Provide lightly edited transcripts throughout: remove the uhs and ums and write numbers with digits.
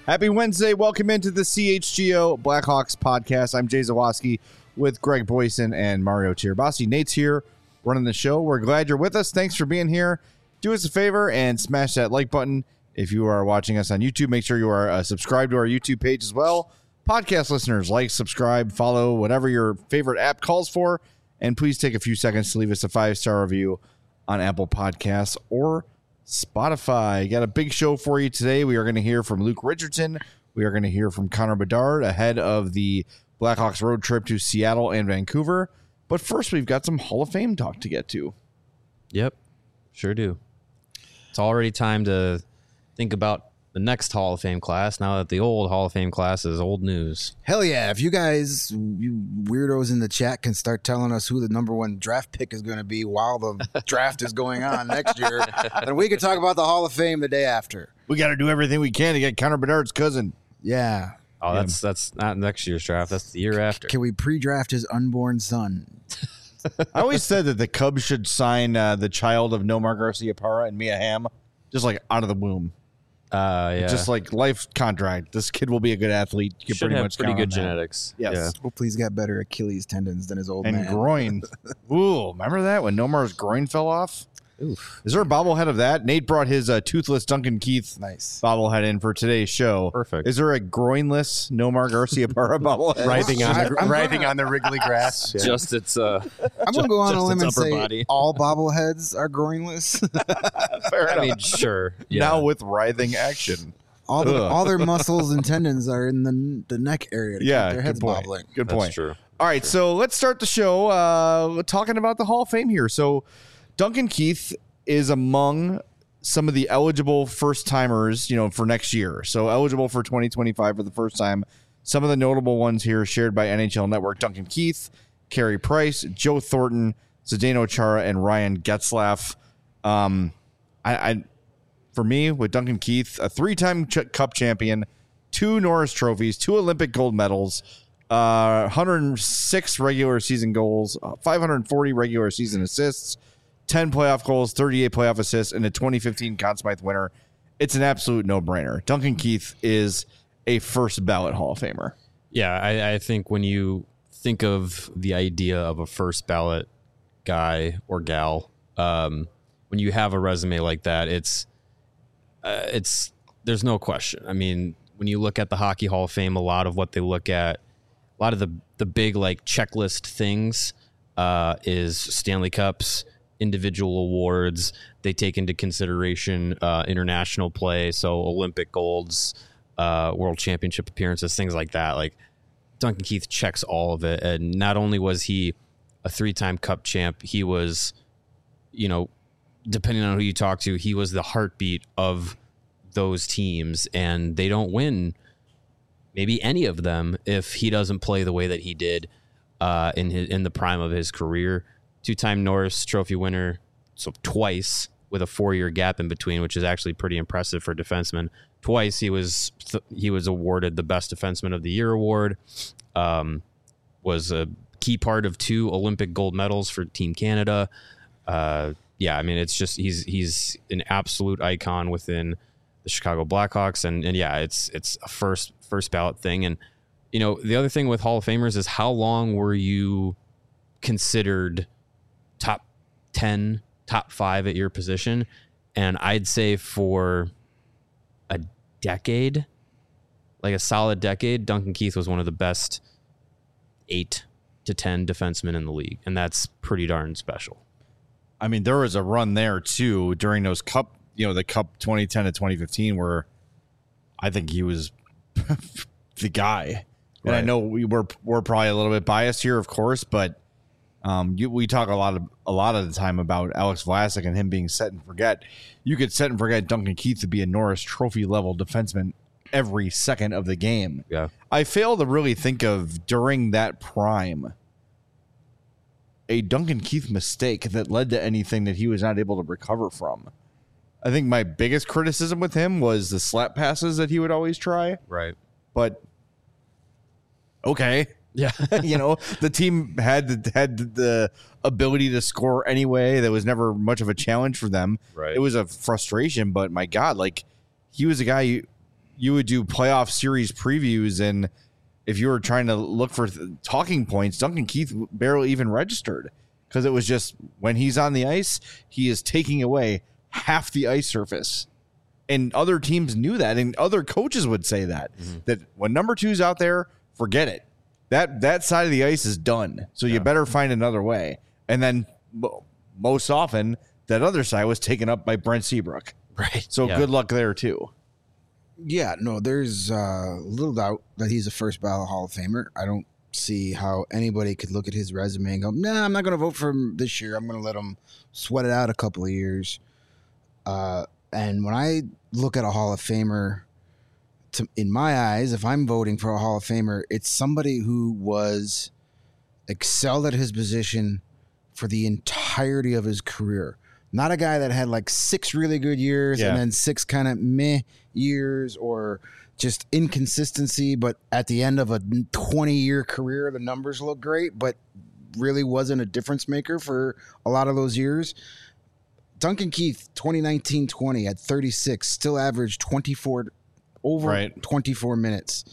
Happy Wednesday. Welcome into the CHGO Blackhawks podcast. I'm Jay Zawoski with Greg Boyson and Mario Tirabassi. Nate's here running the show. We're glad you're with us. Thanks for being here. Do us a favor and smash that like button. If you are watching us on YouTube, make sure you are subscribed to our YouTube page as well. Podcast listeners, like, subscribe, follow, whatever your favorite app calls for. And please take a few seconds to leave us a 5-star review on Apple Podcasts or Spotify. Got a big show for you today. We are going to hear from Luke Richardson. We are going to hear from Connor Bedard ahead of the Blackhawks road trip to Seattle and Vancouver. But first, we've got some Hall of Fame talk to get to. Yep, sure do. It's already time to think about the next Hall of Fame class now that the old Hall of Fame class is old news. Hell yeah. If you guys, you weirdos in the chat, can start telling us who the number one draft pick is going to be while the draft is going on next year, then we can talk about the Hall of Fame the day after. We got to do everything we can to get Connor Bedard's cousin. Yeah. Oh, that's not next year's draft. That's the year after. Can we pre-draft his unborn son? I always said that the Cubs should sign the child of Nomar Garciaparra and Mia Hamm just like out of the womb. Yeah. Just like life contract. This kid will be a good athlete. You can Should pretty have much pretty count good on that. genetics. Yes. Yeah. Hopefully he's got better Achilles tendons than his old And man. groin. Ooh, remember that when Nomar's groin fell off? Oof. Is there a bobblehead of that? Nate brought his toothless Duncan Keith Nice. bobblehead in for today's show. Perfect. Is there a groinless Nomar Garciaparra bobblehead? Writhing on the wriggly grass. Yeah. Just its I'm going to go on a limb and upper say body. all bobbleheads are groinless. Fair I enough. mean, sure. Yeah. Now with writhing action. all their muscles and tendons are in the neck area to keep their heads good point. bobbling. Good That's point. true. All right, so let's start the show talking about the Hall of Fame here. So Duncan Keith is among some of the eligible first-timers, for next year. So eligible for 2025 for the first time. Some of the notable ones here shared by NHL Network: Duncan Keith, Carey Price, Joe Thornton, Zdeno Chara, and Ryan Getzlaf. For me, with Duncan Keith, a 3-time Cup champion, 2 Norris trophies, 2 Olympic gold medals, 106 regular season goals, 540 regular season assists, 10 playoff goals, 38 playoff assists, and a 2015 Conn Smythe winner. It's an absolute no-brainer. Duncan Keith is a first ballot Hall of Famer. Yeah, I think when you think of the idea of a first ballot guy or gal, when you have a resume like that, it's there's no question. I mean, when you look at the Hockey Hall of Fame, a lot of what they look at, a lot of the big like checklist things is Stanley Cups, individual awards. They take into consideration international play, so Olympic golds, World Championship appearances, things like that. Like Duncan Keith checks all of it, and not only was he a 3-time Cup champ, he was, depending on who you talk to, he was the heartbeat of those teams, and they don't win maybe any of them if he doesn't play the way that he did in the prime of his career. 2-time Norris Trophy winner, so twice with a 4-year gap in between, which is actually pretty impressive for defensemen. Twice he was awarded the Best Defenseman of the Year award. Was a key part of 2 Olympic gold medals for Team Canada. Yeah, I mean, it's just he's an absolute icon within the Chicago Blackhawks, and yeah, it's a first ballot thing. And the other thing with Hall of Famers is how long were you considered top 10, top 5 at your position? And I'd say for a decade, like a solid decade, Duncan Keith was one of the best 8 to 10 defensemen in the league, and that's pretty darn special. I mean, there was a run there too during those Cup, the Cup 2010 to 2015, where I think he was the guy. And Right. I know we're probably a little bit biased here, of course, but we talk a lot of the time about Alex Vlasic and him being set and forget. You could set and forget Duncan Keith to be a Norris Trophy level defenseman every second of the game. Yeah. I fail to really think of during that prime a Duncan Keith mistake that led to anything that he was not able to recover from. I think my biggest criticism with him was the slap passes that he would always try. Right. But okay. Yeah. The team had the ability to score anyway. That was never much of a challenge for them. Right. It was a frustration, but my God, like he was a guy you would do playoff series previews, and if you were trying to look for talking points, Duncan Keith barely even registered because it was just when he's on the ice, he is taking away half the ice surface. And other teams knew that, and other coaches would say that, that when number 2's out there, forget it. That side of the ice is done. So you better find another way. And then most often, that other side was taken up by Brent Seabrook. Right. So good luck there, too. Yeah, no, there's little doubt that he's a first ballot Hall of Famer. I don't see how anybody could look at his resume and go, nah, I'm not going to vote for him this year. I'm going to let him sweat it out a couple of years. And when I look at a Hall of Famer, in my eyes, if I'm voting for a Hall of Famer, it's somebody who was excelled at his position for the entirety of his career. Not a guy that had like 6 really good years and then 6 kind of meh years or just inconsistency. But at the end of a 20-year career, the numbers look great, but really wasn't a difference maker for a lot of those years. Duncan Keith, 2019-20 at 36, still averaged 24 minutes.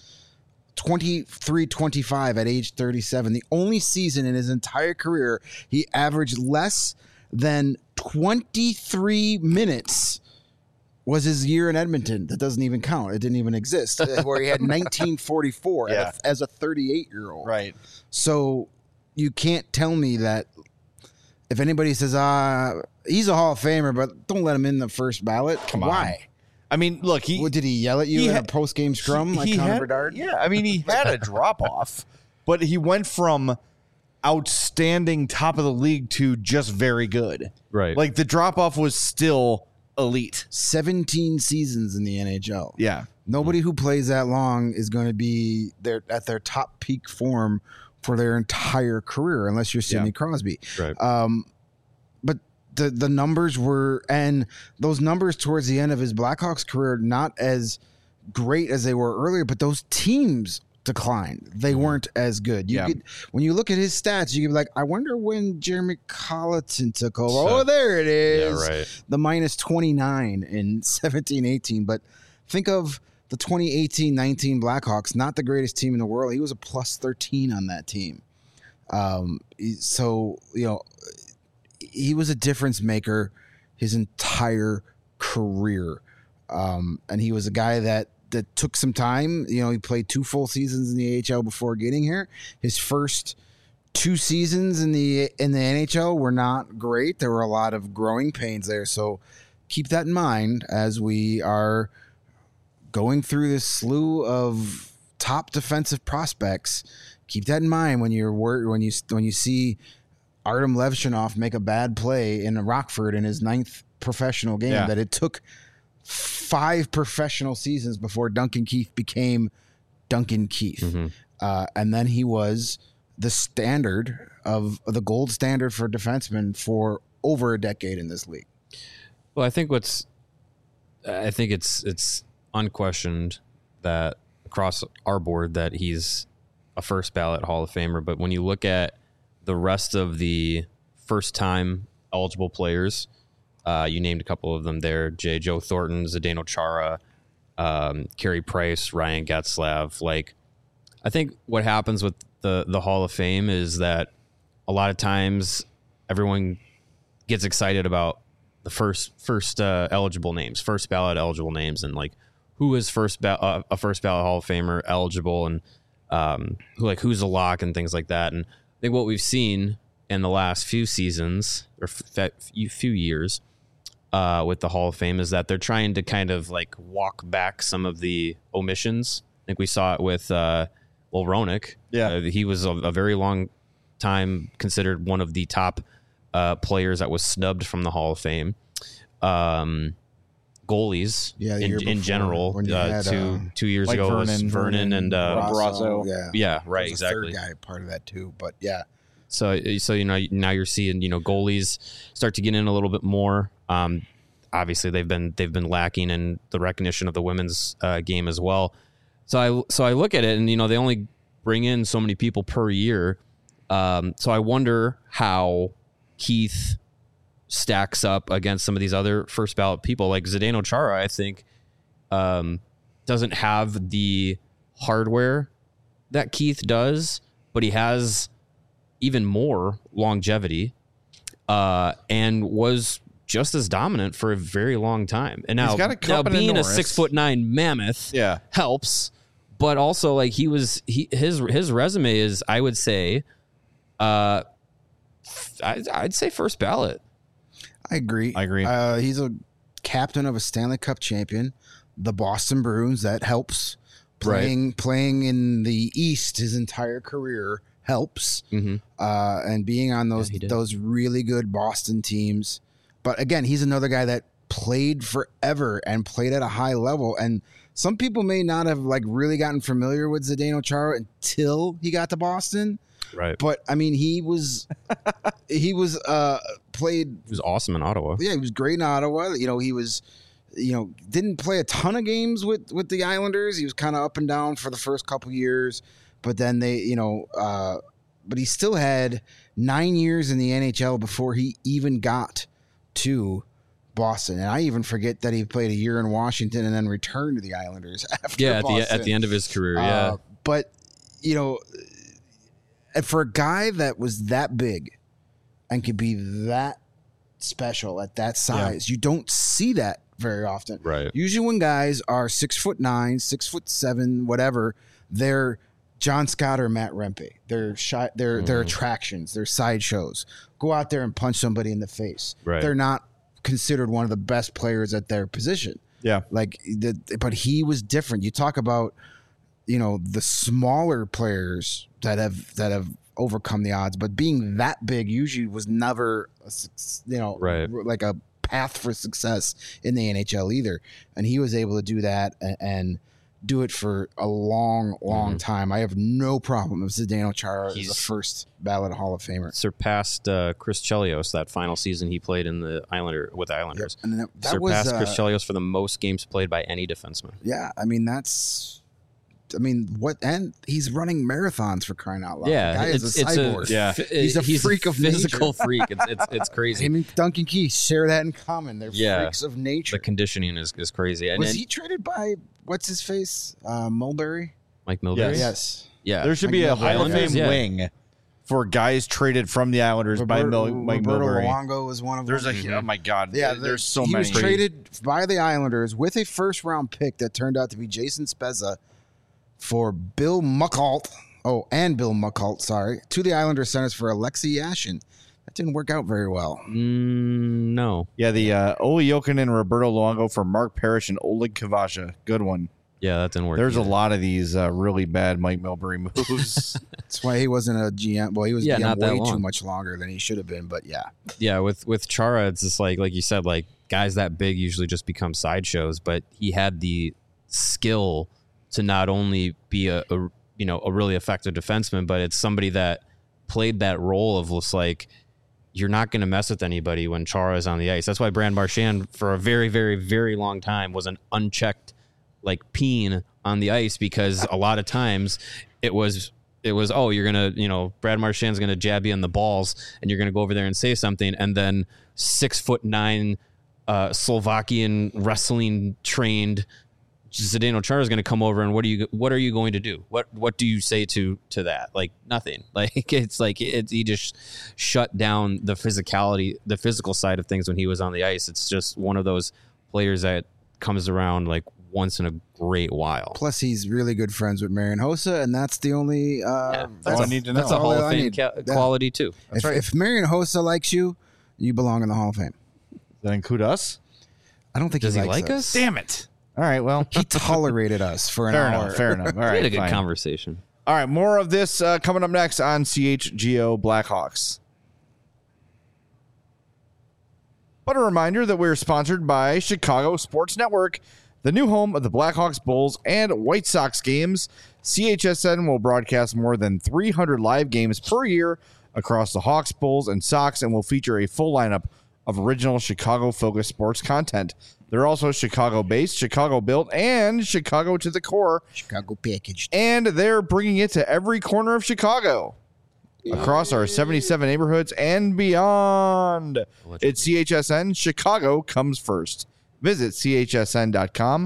23-25 at age 37. The only season in his entire career he averaged less than 23 minutes was his year in Edmonton. That doesn't even count. It didn't even exist. Where he had 1944 as a 38-year-old. Right. So you can't tell me that if anybody says, he's a Hall of Famer, but don't let him in the first ballot. Come on. Why? I mean, look, did he yell at you in a post-game scrum like Connor Bedard? Yeah, I mean, he had a drop-off, but he went from outstanding top of the league to just very good. Right. Like, the drop-off was still elite. 17 seasons in the NHL. Yeah. Nobody who plays that long is going to be at their top peak form for their entire career, unless you're Sidney Crosby. Right. But the numbers were, and those numbers towards the end of his Blackhawks career, not as great as they were earlier, but those teams declined. They weren't as good. When you look at his stats, you could be like, I wonder when Jeremy Colleton took over. There it is. Yeah, right. The minus 29 in 17-18. But think of the 2018-19 Blackhawks, not the greatest team in the world. He was a plus 13 on that team. So, he was a difference maker his entire career. And he was a guy that took some time. He played 2 full seasons in the AHL before getting here. His first 2 seasons in the NHL were not great. There were a lot of growing pains there. So keep that in mind as we are going through this slew of top defensive prospects. Keep that in mind when you see Artem Levshunov make a bad play in Rockford in his 9th professional game, that it took 5 professional seasons before Duncan Keith became Duncan Keith. And then he was the standard of the gold standard for defensemen for over a decade in this league. Well, I think it's unquestioned that across our board that he's a first ballot Hall of Famer. But when you look at the rest of the first time eligible players, you named a couple of them there, Joe Thornton, Zdeno Chara, Carey Price, Ryan Getzlaf. Like, I think what happens with the Hall of Fame is that a lot of times everyone gets excited about the first eligible names, first ballot eligible names, and like who is a first ballot Hall of Famer eligible, and who's a lock and things like that. And I think what we've seen in the last few seasons or few years with the Hall of Fame is that they're trying to kind of like walk back some of the omissions. I think we saw it with Roenick. He was a very long time considered one of the top players that was snubbed from the Hall of Fame. Goalies in general, had, 2 years ago Vernon, was Vernon and Brasso. Right, exactly. Third guy part of that now you're seeing goalies start to get in a little bit more. Obviously they've been lacking in the recognition of the women's game as well. So I look at it and they only bring in so many people per year. So I wonder how Keith stacks up against some of these other first ballot people like Zdeno Chara. I think does doesn't have the hardware that Keith does, but he has even more longevity, and was just as dominant for a very long time. And now, being a 6'9" mammoth helps, but also like his resume is, I would say, I'd say first ballot. I agree. He's a captain of a Stanley Cup champion, the Boston Bruins. That helps. Playing in the East his entire career helps. And being on those really good Boston teams. But again, he's another guy that played forever and played at a high level. And some people may not have like really gotten familiar with Zdeno Chara until he got to Boston. Right. But I mean, he was awesome in Ottawa. Yeah, he was great in Ottawa. He was, didn't play a ton of games with the Islanders. He was kind of up and down for the first couple years, but then but he still had 9 years in the NHL before he even got to Boston. And I even forget that he played a year in Washington and then returned to the Islanders after Boston. at the end of his career. But and for a guy that was that big and could be that special at that size, you don't see that very often. Right. Usually when guys are 6'9", 6'7", whatever, they're John Scott or Matt Rempe. They're attractions. They're sideshows. Go out there and punch somebody in the face. Right. They're not considered one of the best players at their position. Yeah. But he was different. You talk about, the smaller players that have overcome the odds, but being that big usually was never, like a path for success in the NHL either. And he was able to do that and do it for a long time. I have no problem if Zdeno Chara is a first ballot Hall of Famer. Surpassed Chris Chelios that final season he played in the Islanders. Yep. And that surpassed was, Chris Chelios for the most games played by any defenseman. Yeah, and he's running marathons for crying out loud. Yeah, the guy is a cyborg. He's a freak of physical nature. freak. It's crazy. Him and Duncan Keith share that in common. They're freaks of nature. The conditioning is crazy. Was he traded by what's his face? Mulberry? Mike Milbury? Yes. Yeah. There should Mike be a Milbury. Hall of Fame wing for guys traded from the Islanders by Mike Roberto Milbury. Luongo was one of them. Oh my God. Yeah, there's so he many. He was traded by the Islanders with a first-round pick that turned out to be Jason Spezza for Bill Muckalt. Oh, and Bill Muckalt, sorry, to the Islanders centers for Alexei Yashin. That didn't work out very well. No. Yeah, the Ole Jokinen, Roberto Luongo for Mark Parrish and Oleg Kavasha. Good one. Yeah, that didn't work. There's either. a lot of these really bad Mike Milbury moves. That's why he wasn't a GM. Well, he was GM not that way long. too much longer than he should have been, but yeah. Yeah, with Chara, it's just like you said, like guys that big usually just become sideshows, but he had the skill to not only be a really effective defenseman, but it's somebody that played that role of just like, you're not going to mess with anybody when Chara is on the ice. That's why Brad Marchand for a very, very, very long time was an unchecked like peen on the ice, because a lot of times it was you're gonna Brad Marchand's gonna jab you in the balls and you're gonna go over there and say something, and then 6'9" Slovakian wrestling trained Zdeno Chara is going to come over, and what are you going to do? What do you say to that? Like nothing. Like it's like he just shut down the physicality, the physical side of things when he was on the ice. It's just one of those players that comes around like once in a great while. Plus, he's really good friends with Marian Hossa, and that's the only. That's all I need to know. That's a Hall of Fame quality too. If Marian Hossa likes you, you belong in the Hall of Fame. Does that include us? I don't think Does he he likes like us? Damn it. All right, well. He tolerated us for an hour. Fair enough. All right, We had a good fine. conversation. All right, more of this coming up next on CHGO Blackhawks. But a reminder that we're sponsored by Chicago Sports Network, the new home of the Blackhawks, Bulls, and White Sox games. CHSN will broadcast more than 300 live games per year across the Hawks, Bulls, and Sox, and will feature a full lineup of original Chicago-focused sports content. They're also Chicago-based, Chicago-built, and Chicago to the core. Chicago packaged. And they're bringing it to every corner of Chicago, across our 77 neighborhoods and beyond. It's CHSN. Chicago comes first. Visit chsn.com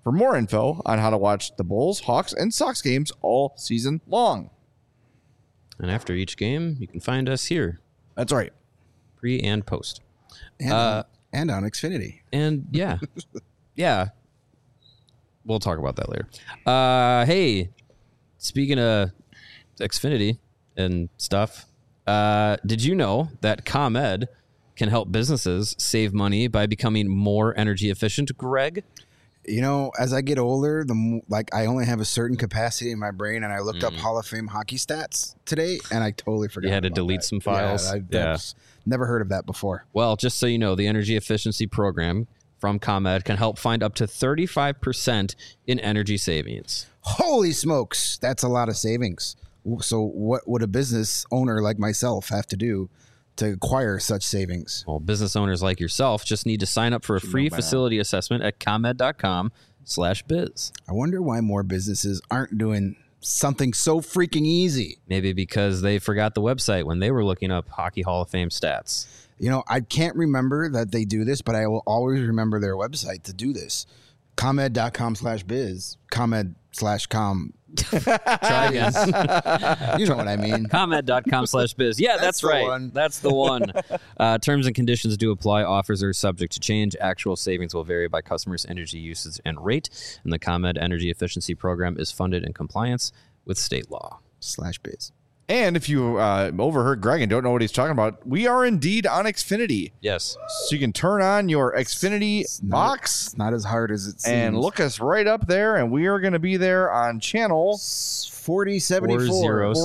for more info on how to watch the Bulls, Hawks, and Sox games all season long. And after each game, you can find us here, That's right. pre and post. And on Xfinity. And yeah, yeah, we'll talk about that later. Hey, speaking of Xfinity and stuff, did you know that ComEd can help businesses save money by becoming more energy efficient, Greg? You know, as I get older, I only have a certain capacity in my brain, and I looked up Hall of Fame hockey stats today, and I totally forgot. You had to about delete that. some files. Yeah, never heard of that before. Well, just so you know, the energy efficiency program from ComEd can help find up to 35% in energy savings. Holy smokes, that's a lot of savings. So what would a business owner like myself have to do to acquire such savings? Well, business owners like yourself just need to sign up for a free facility assessment at ComEd.com/biz. I wonder why more businesses aren't doing something so freaking easy. Maybe because they forgot the website when they were looking up Hockey Hall of Fame stats. You know, I can't remember that they do this, but I will always remember their website to do this. ComEd.com/biz. ComEd/com. Try again. You know what I mean. ComEd.com/biz. Yeah, that's the right. one. That's the one. Terms and conditions do apply. Offers are subject to change. Actual savings will vary by customers' energy usage and rate. And the ComEd Energy Efficiency Program is funded in compliance with state law. /biz. And if you overheard Greg and don't know what he's talking about, we are indeed on Xfinity. Yes. So you can turn on your Xfinity box It's not as hard as it seems. and look us right up there, and we are going to be there on channel 4074.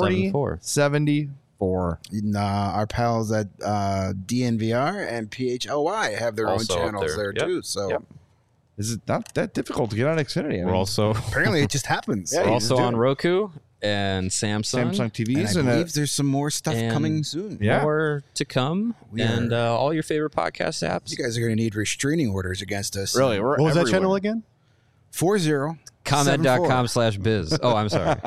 4074. Our pals at DNVR and PHLY have their Also own up channels there there. Yep. too. So Yep. Is it not that difficult to get on Xfinity? I We're mean, also apparently it just happens. Yeah, we're you also just do on it. Roku and Samsung. Samsung And TVs I and, believe there's some more stuff and- coming soon. Yeah. More to come. We and are- all your favorite podcast apps. You guys are going to need restraining orders against us. really, we're What was that everywhere. channel again? 40. ComEd.com/biz. Oh, I'm sorry.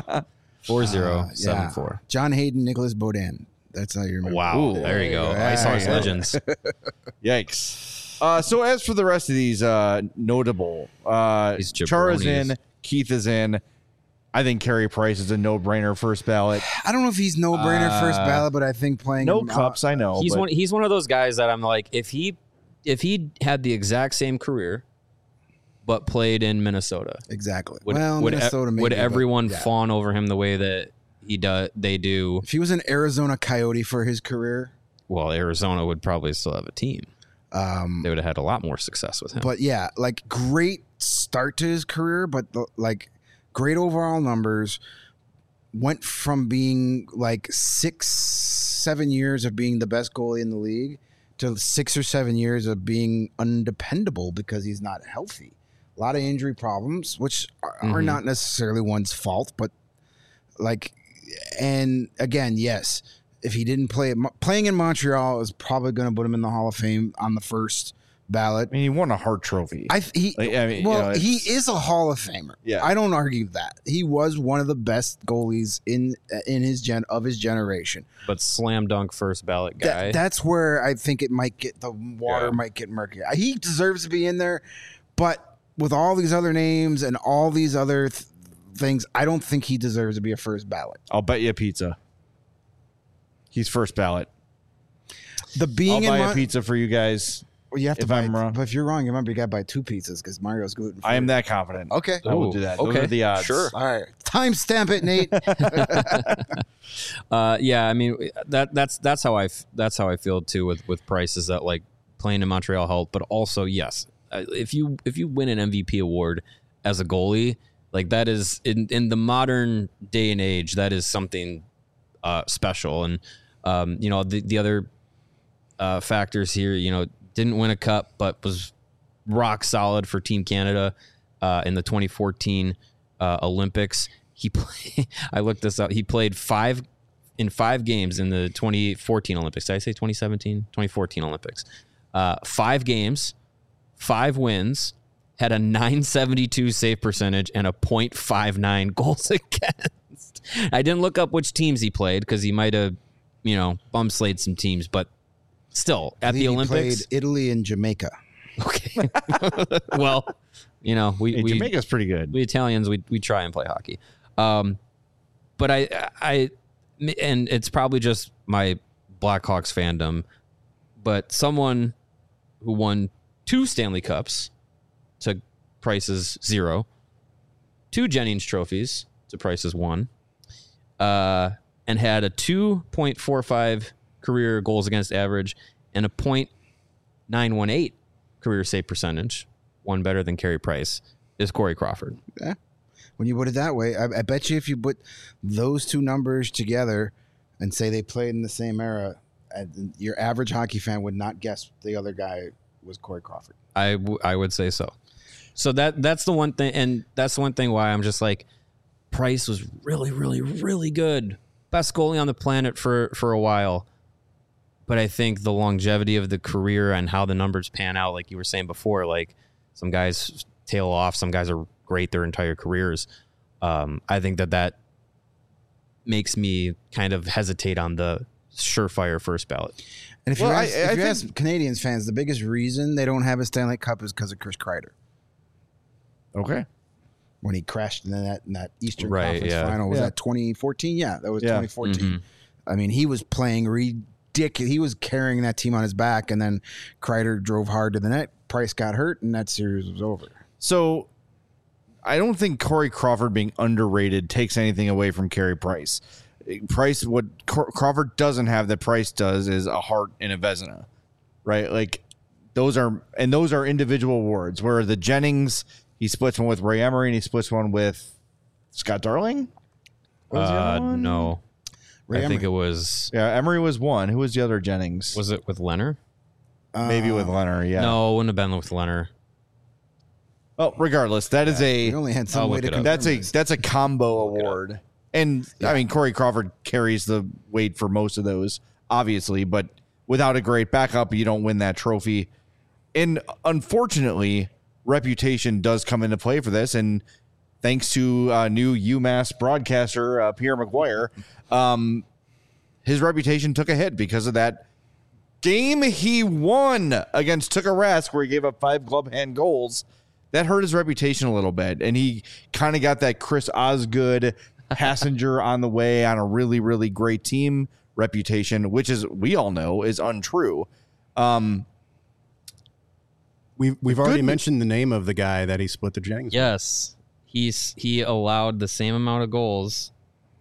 4074. John Hayden, Nicholas Baudin. That's how you remember. Wow. Ooh. There you go. Yeah, Ice House yeah. Legends. Yikes. So as for the rest of these notable, These Chara's in, jabronis. Keith is in. I think Carey Price is a no-brainer first ballot. I don't know if he's no-brainer first ballot, but I think playing No him cups, I know. He's but he's one of those guys that I'm like, if he had the exact same career but played in Minnesota, Exactly. would, Minnesota maybe, would but everyone yeah. fawn over him the way that they do? If he was an Arizona Coyote for his career, Well, Arizona would probably still have a team. They would have had a lot more success with him. but yeah, like great start to his career, but like great overall numbers. Went from being like 6-7 years of being the best goalie in the league to 6 or 7 years of being undependable because he's not healthy. A lot of injury problems, which are not necessarily one's fault, but like, and again, yes, if he didn't playing in Montreal is probably going to put him in the Hall of Fame on the first ballot. I mean, he won a Hart Trophy. He is a Hall of Famer. Yeah. I don't argue that. He was one of the best goalies in his generation. But slam dunk first ballot guy. That's where I think it might get the water might get murky. He deserves to be in there, but with all these other names and all these other things, I don't think he deserves to be a first ballot. I'll bet you a pizza. He's first ballot. The being I'll in buy a pizza for you guys. Well, you have to if buy, I'm wrong. But if you're wrong, you remember you got to buy 2 pizzas because Mario's gluten free. I am that confident. Okay. I will Ooh, do that. Those okay. are the odds. Sure. All right. Timestamp it, Nate. Yeah, I mean that's how I feel too with Price, is that like playing in Montreal helped, but also yes, if you win an MVP award as a goalie, like that is in the modern day and age, that is something special. And the other factors here, didn't win a cup but was rock solid for Team Canada in the 2014 Olympics. I looked this up. He played 5 games in the 2014 Olympics. Did I say 2017? 2014 Olympics. 5 games, 5 wins, had a .972 save percentage and a .59 goals against. I didn't look up which teams he played because he might have, bum slayed some teams, but still at the Olympics. He played Italy and Jamaica. Okay. Well, You know, we Jamaica's pretty good. We Italians, we try and play hockey. But I and it's probably just my Blackhawks fandom, but someone who won 2 Stanley Cups to Price's 0, 2 Jennings trophies to Price's 1, and had a 2.45 career goals against average and a .918 career save percentage, one better than Carey Price, is Corey Crawford. Yeah. When you put it that way, I bet you if you put those 2 numbers together and say they played in the same era, your average hockey fan would not guess the other guy was Corey Crawford. I would say so. So that's the one thing, and that's the one thing why I'm just like, Price was really, really, really good. Best goalie on the planet for a while. But I think the longevity of the career and how the numbers pan out, like you were saying before, like some guys tail off, some guys are great their entire careers. I think that makes me kind of hesitate on the surefire first ballot. And if you ask Canadians fans, the biggest reason they don't have a Stanley Cup is because of Chris Kreider. Okay. When he crashed in that Eastern Right, Conference yeah. final. Was that 2014? Yeah, that was 2014. Mm-hmm. I mean, he was playing ridiculous. He was carrying that team on his back, and then Kreider drove hard to the net. Price got hurt, and that series was over. So I don't think Corey Crawford being underrated takes anything away from Carey Price. What Crawford doesn't have that Price does is a Hart and a Vezina, right? Like those are individual awards. Where the Jennings, he splits one with Ray Emery and he splits one with Scott Darling. What was the other one? No, Ray I think it was. Yeah, Emery was one. Who was the other Jennings? Was it with Leonard? Maybe with Leonard. Yeah. No, it wouldn't have been with Leonard. Oh, regardless, that is we only had some way to confirm that's a combo award. And I mean, Corey Crawford carries the weight for most of those, obviously, but without a great backup, you don't win that trophy. And unfortunately, reputation does come into play for this. And thanks to new UMass broadcaster Pierre McGuire, his reputation took a hit because of that game he won against Tuukka Rask, where he gave up 5 glove hand goals. That hurt his reputation a little bit, and he kind of got that Chris Osgood passenger on the way on a really, really great team reputation, which is, we all know, is untrue. We've already mentioned the name of the guy that he split the Jennings. Yes, he allowed the same amount of goals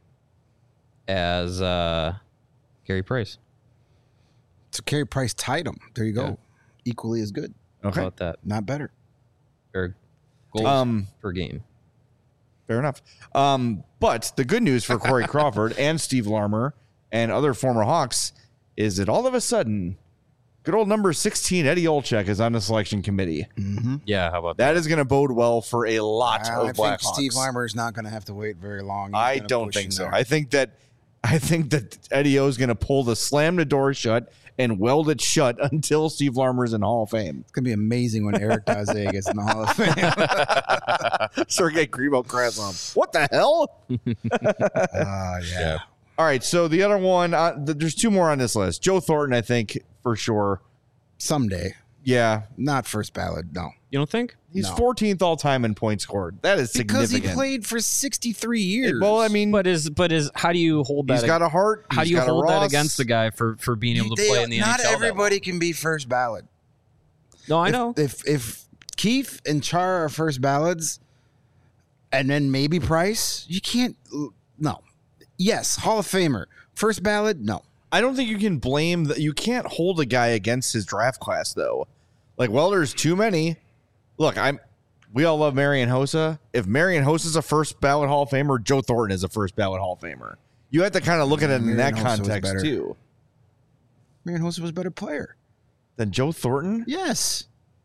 as Carey Price. So Carey Price tied him. There you go. Yeah. Equally as good. Okay. How about that? Not better. Or goals per game. Fair enough. But the good news for Corey Crawford and Steve Larmer and other former Hawks is that all of a sudden, good old number 16, Eddie Olczyk, is on the selection committee. Mm-hmm. Yeah, how about that? That is going to bode well for a lot of I Blackhawks. think Steve Larmer is not going to have to wait very long. I don't think so. I think that Eddie O is going to slam the door shut and weld it shut until Steve Larmer's in the Hall of Fame. It's going to be amazing when Eric Daze gets in the Hall of Fame. Sergei Krivokrazov. What the hell? Yeah. All right, so the other one, there's 2 more on this list. Joe Thornton, I think, for sure. Someday. Yeah. Not first ballot, no. You don't think? He's 14th all time in points scored. That is significant. Because he played for 63 years. Well, I mean, but how do you hold that? He's got a heart. How do you hold that against the guy for being able to play in the NHL? Not everybody can be first ballot. No, I know. If Keefe and Chara are first ballots, and then maybe Price, you can't. No. Yes, Hall of Famer. First ballot, no. I don't think you can blame you can't hold a guy against his draft class though. Like, well, there's too many. Look, we all love Marian Hossa. If Marian Hossa's a first ballot Hall of Famer, Joe Thornton is a first ballot Hall of Famer. You have to kind of look at it in that context too. Marian Hossa was a better player than Joe Thornton. Yes.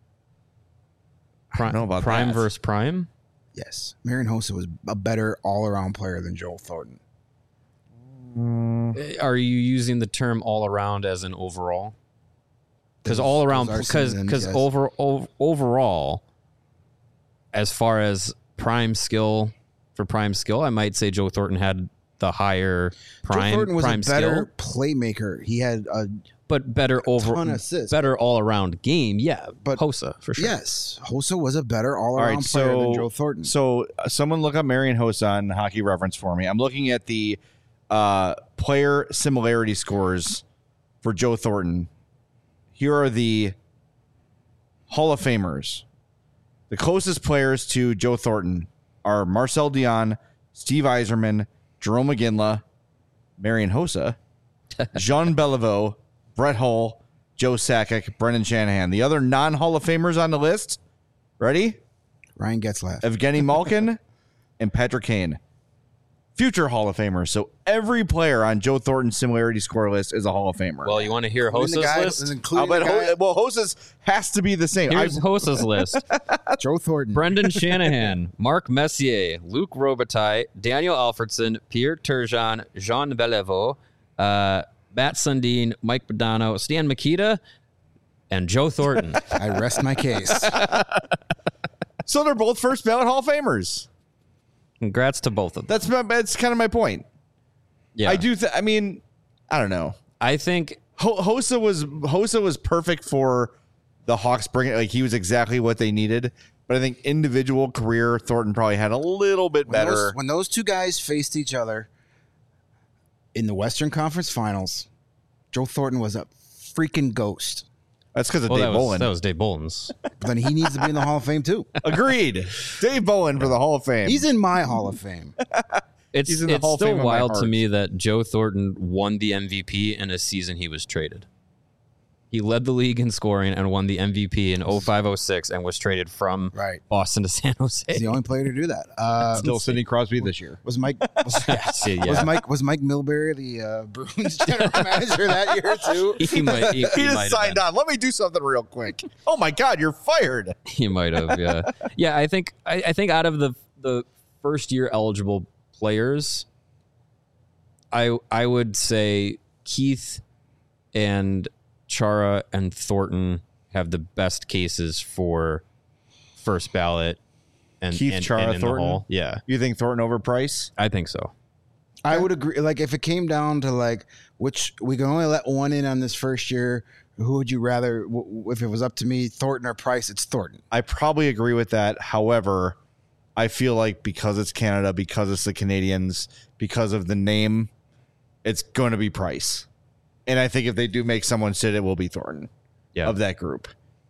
I don't know about prime that. versus prime. Yes, Marian Hossa was a better all-around player than Joe Thornton. Are you using the term all around as an overall? Because all around, because overall, as far as prime skill, I might say Joe Thornton had the higher prime. Joe Thornton was prime a better skill. playmaker. He had but better ton of assists. better all around game. Yeah, But- Hossa for sure. Yes, Hossa was a better all All around right, player so than Joe Thornton. So someone look up Marion Hossa on Hockey Reference for me. I'm looking at the player similarity scores for Joe Thornton. Here are the Hall of Famers. The closest players to Joe Thornton are Marcel Dion, Steve Yzerman, Jerome McGinley, Marion Hossa, Jean Beliveau, Brett Hull, Joe Sakic, Brendan Shanahan. The other non-Hall of Famers on the list, ready? Ryan Getzlaf. Evgeny Malkin and Patrick Kane. Future Hall of Famers. So every player on Joe Thornton's similarity score list is a Hall of Famer. Well, you want to hear Including the Hossa's guy- list? including but the guy- Hossa's has to be the same. Here's Hossa's list. Joe Thornton. Brendan Shanahan, Mark Messier, Luc Robitaille, Daniel Alfredson, Pierre Turgeon, Jean Beliveau, Matt Sundin, Mike Badano, Stan Mikita, and Joe Thornton. I rest my case. So they're both first ballot Hall of Famers. Congrats to both of them. That's kind of my point. Yeah, I do. I mean, I don't know. I think Hossa was perfect for the Hawks. Like he was exactly what they needed. But I think individual career Thornton probably had a little bit better. When those two guys faced each other in the Western Conference Finals, Joe Thornton was a freaking ghost. That's because of well, Dave Bolin. that was Dave Bolin's. But then he needs to be in the Hall of Fame too. Agreed. Dave Bolin for the Hall of Fame. He's in my Hall of Fame. It's He's in the Hall of Fame still of my wild to heart. me that Joe Thornton won the MVP in a season he was traded. He led the league in scoring and won the MVP in 05-06 and was traded from Right. Boston to San Jose. He's the only player to do that. Still Sidney Crosby this year. Was Mike Yeah. was Mike Milbury the Bruins general manager that year too? He might. He He might just have signed been. on. Let me do something real quick. Oh my God, you're fired. He might have. Yeah. Yeah. I think out of the first year eligible players, I would say Keith and Chara and Thornton have the best cases for first ballot and Keith, and, Chara, and in Thornton? the Hall. Yeah, You think Thornton over Price? I think so. I would agree. Like if it came down to like which we can only let one in on this first year, who would you rather? If it was up to me, Thornton or Price, it's Thornton. I probably agree with that. However, I feel like because it's Canada, because it's the Canadians, because of the name, it's going to be Price. And I think if they do make someone sit, it will be Thornton Yeah. of that group.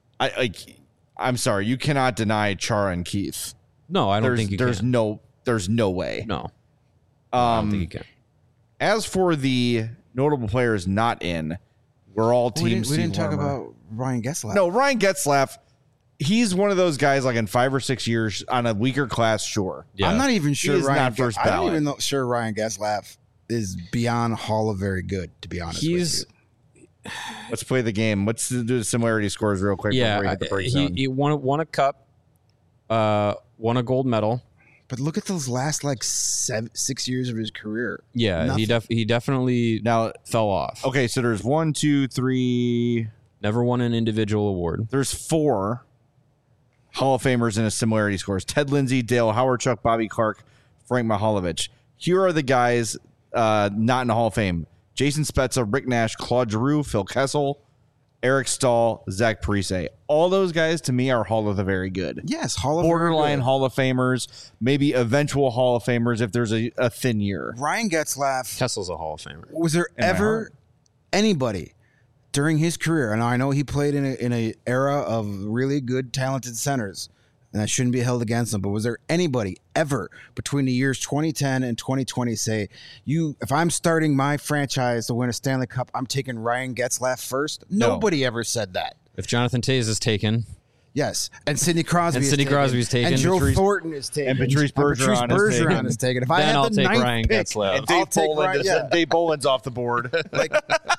I'm sorry, you cannot deny Chara and Keith. No, I don't think you there's can. no way. No, I don't think you can. As for the notable players not in, we're all team We didn't Steve talk Larmer. about Ryan Getzlaf. No, Ryan Getzlaf, he's one of those guys like in 5 or 6 years on a weaker class, sure. Yeah. I'm not even sure is Ryan. not first I don't ballot. even know sure Ryan Getzlaf is beyond Hall of Very Good. To be honest, He's with you. Let's play the game. Let's do the similarity scores real quick before we hit the break zone. he won a cup, won a gold medal. But look at those last like 6 years of his career. Yeah, Nothing. he definitely Now, fell off. okay, so there's 1, 2, 3. Never won an individual award. There's 4 Hall of Famers in a similarity scores. Ted Lindsay, Dale Howardchuk, Bobby Clark, Frank Mihaljevic. Here are the guys not in the Hall of Fame. Jason Spezza, Rick Nash, Claude Giroux, Phil Kessel, Eric Stahl, Zach Parise. All those guys to me are Hall of the Very Good. Yes, Hall of Very Borderline Good. Hall of Famers, maybe eventual Hall of Famers if there's a thin year. Ryan Getzlaf. Kessel's a Hall of Famer. Was there my ever heart. anybody during his career? And I know he played in a era of really good, talented centers, and that shouldn't be held against him. But was there anybody ever between the years 2010 and 2020 say, if I'm starting my franchise to win a Stanley Cup, I'm taking Ryan Getzlaf first? No. Nobody ever said that. If Jonathan Toews is taken, Yes, and Sidney Crosby. And is Sidney taken. Crosby's taken. And Joe Patrice- Thornton is taken. and Patrice Bergeron is taken. is taken. If I Then had I'll the take ninth Ryan pick, Getzlaf. And I'll Dave take Bolin Ryan. Yeah. Dave Bolin's off the board. Like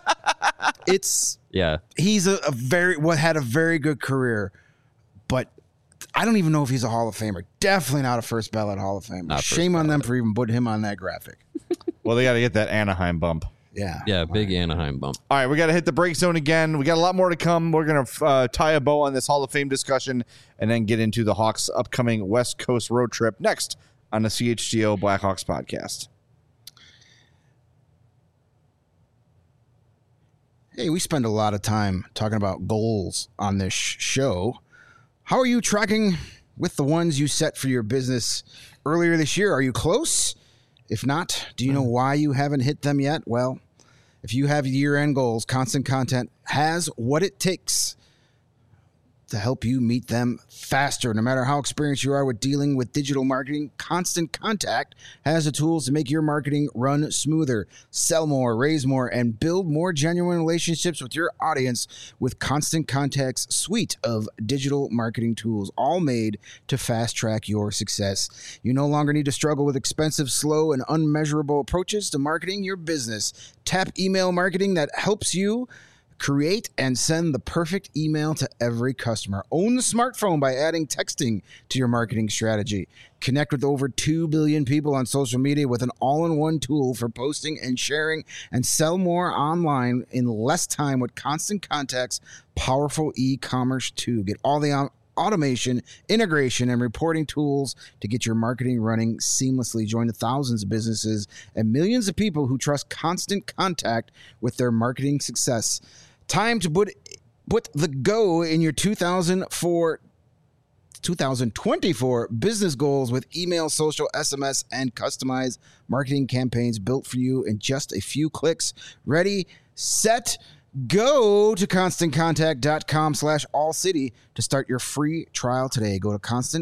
it's yeah, he's had a very good career, but I don't even know if he's a Hall of Famer. Definitely not a first ballot Hall of Famer. Not first Shame on them for even putting him on that graphic. Well, they got to get that Anaheim bump. Yeah. big Anaheim bump. All right, we got to hit the break zone again. We got a lot more to come. We're going to tie a bow on this Hall of Fame discussion and then get into the Hawks' upcoming West Coast road trip next on the CHGO Blackhawks podcast. Hey, we spend a lot of time talking about goals on this show. How are you tracking with the ones you set for your business earlier this year? Are you close? If not, do you know why you haven't hit them yet? Well, if you have year-end goals, Constant Contact has what it takes to help you meet them faster. No matter how experienced you are with dealing with digital marketing, Constant Contact has the tools to make your marketing run smoother, sell more, raise more, and build more genuine relationships with your audience with Constant Contact's suite of digital marketing tools, all made to fast-track your success. You no longer need to struggle with expensive, slow, and unmeasurable approaches to marketing your business. Tap email marketing that helps you create and send the perfect email to every customer. Own the smartphone by adding texting to your marketing strategy. Connect with over 2 billion people on social media with an all-in-one tool for posting and sharing, and sell more online in less time with Constant Contact's powerful e-commerce tool. Get all the automation, integration, and reporting tools to get your marketing running seamlessly. Join the thousands of businesses and millions of people who trust Constant Contact with their marketing success. Time to put the go in your 2024 business goals with email, social, SMS, and customized marketing campaigns built for you in just a few clicks. Ready, set, go to ConstantContact.com/allcity to start your free trial today. Go to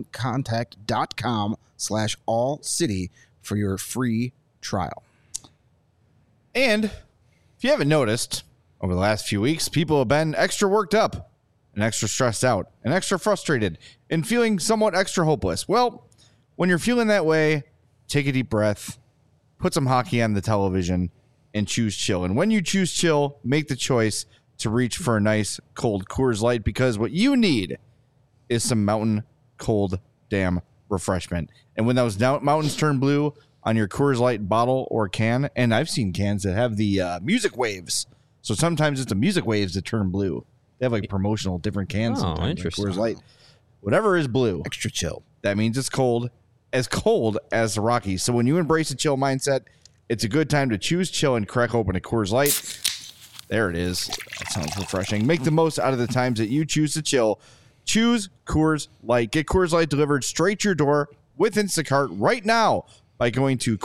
ConstantContact.com/allcity for your free trial. And if you haven't noticed, over the last few weeks, people have been extra worked up and extra stressed out and extra frustrated and feeling somewhat extra hopeless. Well, when you're feeling that way, take a deep breath, put some hockey on the television, and choose chill. And when you choose chill, make the choice to reach for a nice cold Coors Light, because what you need is some mountain cold damn refreshment. And when those mountains turn blue on your Coors Light bottle or can, and I've seen cans that have the music waves. So sometimes it's the music waves that turn blue. They have like promotional different cans. Oh, interesting. Coors Light. Whatever is blue. Extra chill. That means it's cold as the Rockies. So when you embrace a chill mindset, it's a good time to choose chill and crack open a Coors Light. There it is. That sounds refreshing. Make the most out of the times that you choose to chill. Choose Coors Light. Get Coors Light delivered straight to your door with Instacart right now by going to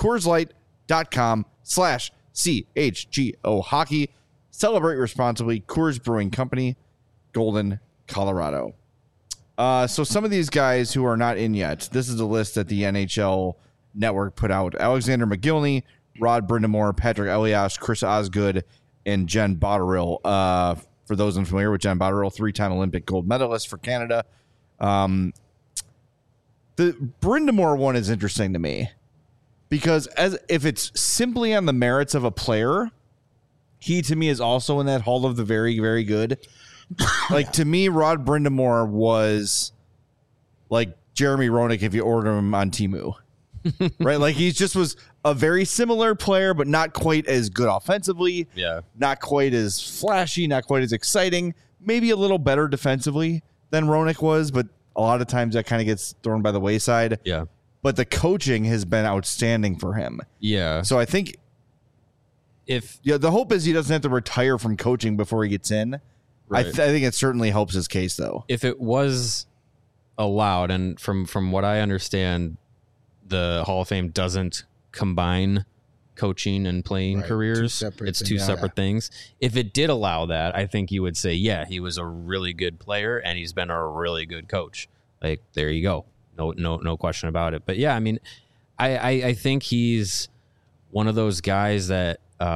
CoorsLight.com/CHGO Hockey. Celebrate responsibly. Coors Brewing Company, Golden, Colorado. So some of these guys who are not in yet, this is a list that the NHL Network put out. Alexander McGillney, Rod Brind'Amour, Patrick Elias, Chris Osgood, and Jen Botterill. For those unfamiliar with Jen Botterill, 3-time Olympic gold medalist for Canada. The Brind'Amour one is interesting to me because if it's simply on the merits of a player, he to me is also in that hall of the very, very good. Like to me, Rod Brind'Amour was like Jeremy Roenick if you order him on Temu. Right? Like he just was a very similar player, but not quite as good offensively. Yeah. Not quite as flashy, not quite as exciting. Maybe a little better defensively than Roenick was, but a lot of times that kind of gets thrown by the wayside. Yeah. But the coaching has been outstanding for him. Yeah. So I think the hope is he doesn't have to retire from coaching before he gets in. Right. I think it certainly helps his case, though. If it was allowed, and from what I understand, the Hall of Fame doesn't combine coaching and playing careers. It's two separate things. If it did allow that, I think you would say, yeah, he was a really good player and he's been a really good coach. Like, there you go. No question about it. But yeah, I mean, I think he's one of those guys that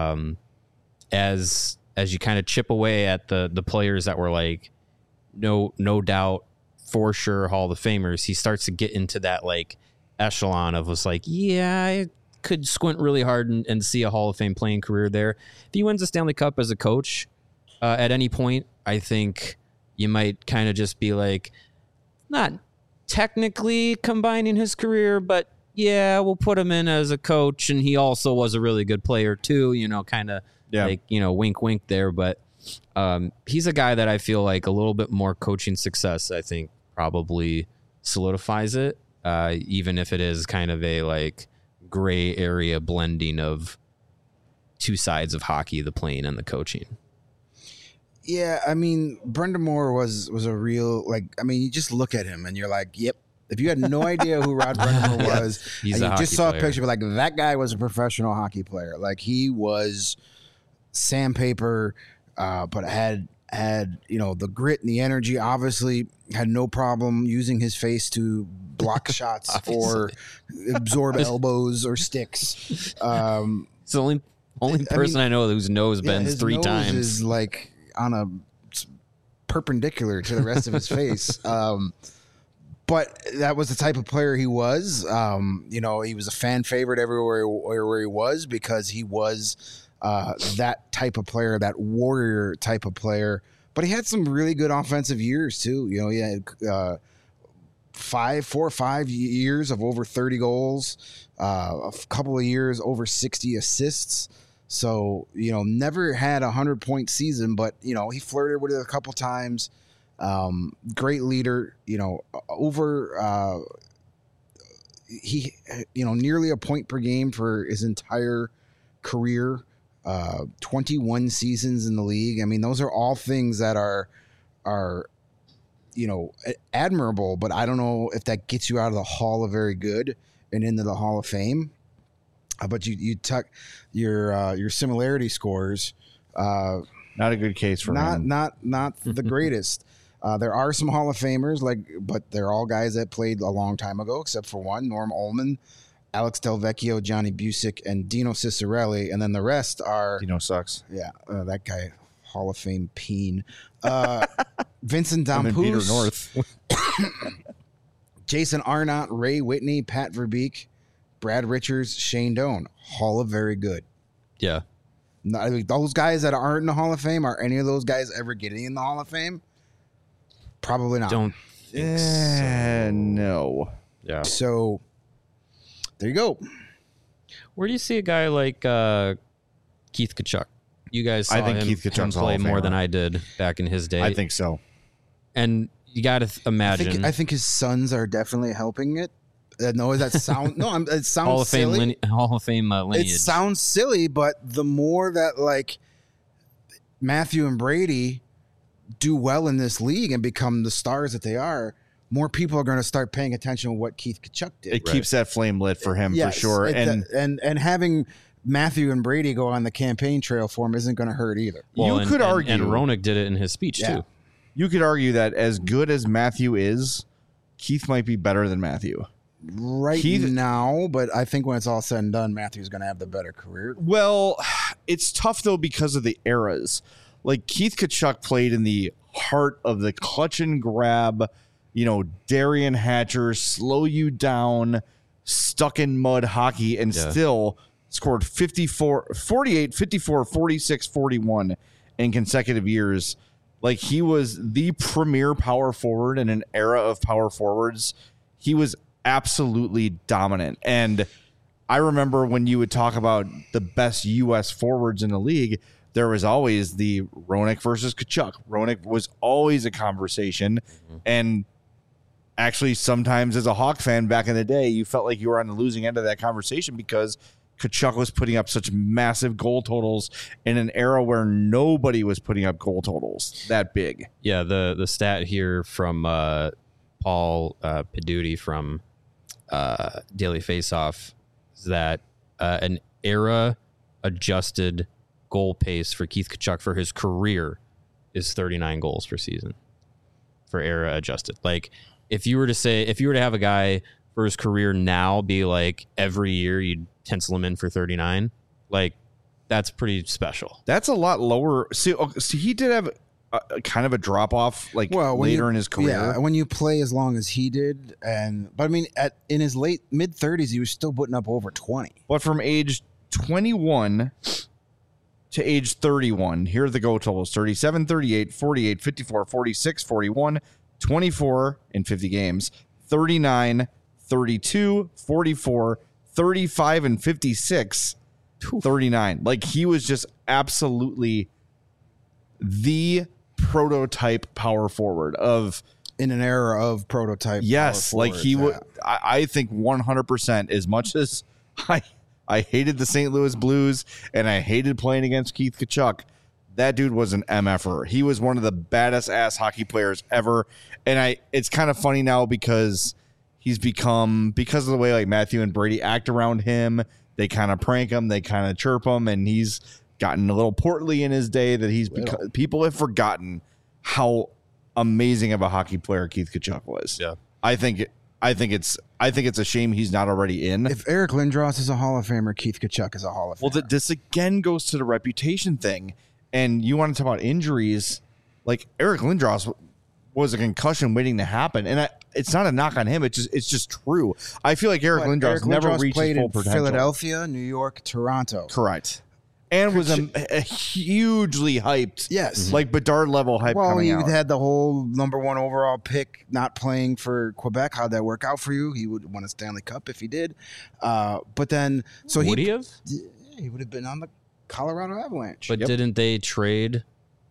as you kind of chip away at the players that were like no doubt for sure Hall of Famers, he starts to get into that like echelon of was like, yeah, I could squint really hard and see a Hall of Fame playing career there. If he wins the Stanley Cup as a coach at any point, I think you might kind of just be like, not technically combining his career, but yeah, we'll put him in as a coach, and he also was a really good player too, kind of like, wink, wink there. But he's a guy that I feel like a little bit more coaching success, I think, probably solidifies it, even if it is kind of a like gray area blending of two sides of hockey, the playing and the coaching. Yeah, I mean, Brendan Moore was a real, like, I mean, you just look at him and you're like, yep. If you had no idea who Rod Brendan Moore was, He's and a you just hockey saw player. a picture, but like that guy was a professional hockey player. Like he was sandpaper, but had the grit and the energy. Obviously, had no problem using his face to block shots or absorb elbows or sticks. It's the only person I know whose nose bends his 3 nose times. is like on a perpendicular to the rest of his face. But that was the type of player he was. He was a fan favorite everywhere he was because he was that type of player, that warrior type of player. But he had some really good offensive years too. You know, he had 4 or 5 years of over 30 goals, a couple of years over 60 assists. So, never had a 100-point season, but, he flirted with it a couple times. Great leader, nearly a point per game for his entire career, 21 seasons in the league. I mean, those are all things that are admirable, but I don't know if that gets you out of the Hall of Very Good and into the Hall of Fame. But you tuck your similarity scores. Not a good case for him. Not the greatest. There are some Hall of Famers, but they're all guys that played a long time ago, except for one, Norm Ullman, Alex Delvecchio, Johnny Busick, and Dino Cicerelli, and then the rest are Dino sucks. Yeah, that guy, Hall of Fame peen. Vincent I'm in Peter Damphousse, North. Jason Arnott, Ray Whitney, Pat Verbeek, Brad Richards, Shane Doan, Hall of Very Good. Yeah. Those guys that aren't in the Hall of Fame, are any of those guys ever getting in the Hall of Fame? Probably not. Don't think so. No. Yeah. So there you go. Where do you see a guy like Keith Tkachuk? You guys saw I think him, Keith Tkachuk's him Hall play of more Famer. than I did back in his day. I think so. And you got to imagine. I think his sons are definitely helping it. No, that sound no. It sounds Hall of Fame silly. Hall of Fame lineage. It sounds silly, but the more that like Matthew and Brady do well in this league and become the stars that they are, more people are going to start paying attention to what Keith Tkachuk did. It keeps that flame lit for him Yes, for sure. And having Matthew and Brady go on the campaign trail for him isn't going to hurt either. Well, you could argue, and Roenick did it in his speech Yeah. too. you could argue that as good as Matthew is, Keith might be better than Matthew. Now, but I think when it's all said and done, Matthew's going to have the better career. Well, it's tough though because of the eras. Like Keith Tkachuk played in the heart of the clutch and grab, Darian Hatcher, slow you down, stuck in mud hockey, and still scored 48, 54, 46, 41 in consecutive years. Like he was the premier power forward in an era of power forwards. He was absolutely dominant. And I remember when you would talk about the best U.S. forwards in the league, there was always the Roenick versus Tkachuk. Roenick was always a conversation. And actually, sometimes as a Hawk fan back in the day, you felt like you were on the losing end of that conversation because Tkachuk was putting up such massive goal totals in an era where nobody was putting up goal totals that big. Yeah, the stat here from Paul Peduti from Daily Faceoff is that an era-adjusted goal pace for Keith Tkachuk for his career is 39 goals per season for era-adjusted. Like, if you were to have a guy for his career now be like every year you'd pencil him in for 39, like that's pretty special. That's a lot lower. See, he did have kind of a drop off later in his career. Yeah, when you play as long as he did, but I mean, in his late mid 30s, he was still putting up over 20. But from age 21 to age 31, here are the goal totals: 37, 38, 48, 54, 46, 41, 24 in 50 games, 39, 32, 44, 35, and 56, 39. Like he was just absolutely the prototype power forward in an era of prototype. Yes, power like he would. forwards, I think 100%. As much as I hated the St. Louis Blues and I hated playing against Keith Tkachuk, that dude was an MFer. He was one of the baddest ass hockey players ever. And it's kind of funny now because he's become, because of the way like Matthew and Brady act around him, they kind of prank him, they kind of chirp him, and he's gotten a little portly in his day that he's become, people have forgotten how amazing of a hockey player Keith Tkachuk was. Yeah. I think it's a shame he's not already in. If Eric Lindros is a Hall of Famer, Keith Tkachuk is a Hall of Famer. Well, this again goes to the reputation thing. And you want to talk about injuries, like Eric Lindros was a concussion waiting to happen, and it's not a knock on him. It's just true. I feel like Eric Lindros never reached his full potential. Philadelphia, New York, Toronto. Correct. And was a hugely hyped. Yes. Like Bedard level hype coming out. Well, he had the whole #1 overall pick not playing for Quebec. How'd that work out for you? He would win a Stanley Cup if he did. But then... Would he have? Yeah, he would have been on the Colorado Avalanche. But didn't they trade...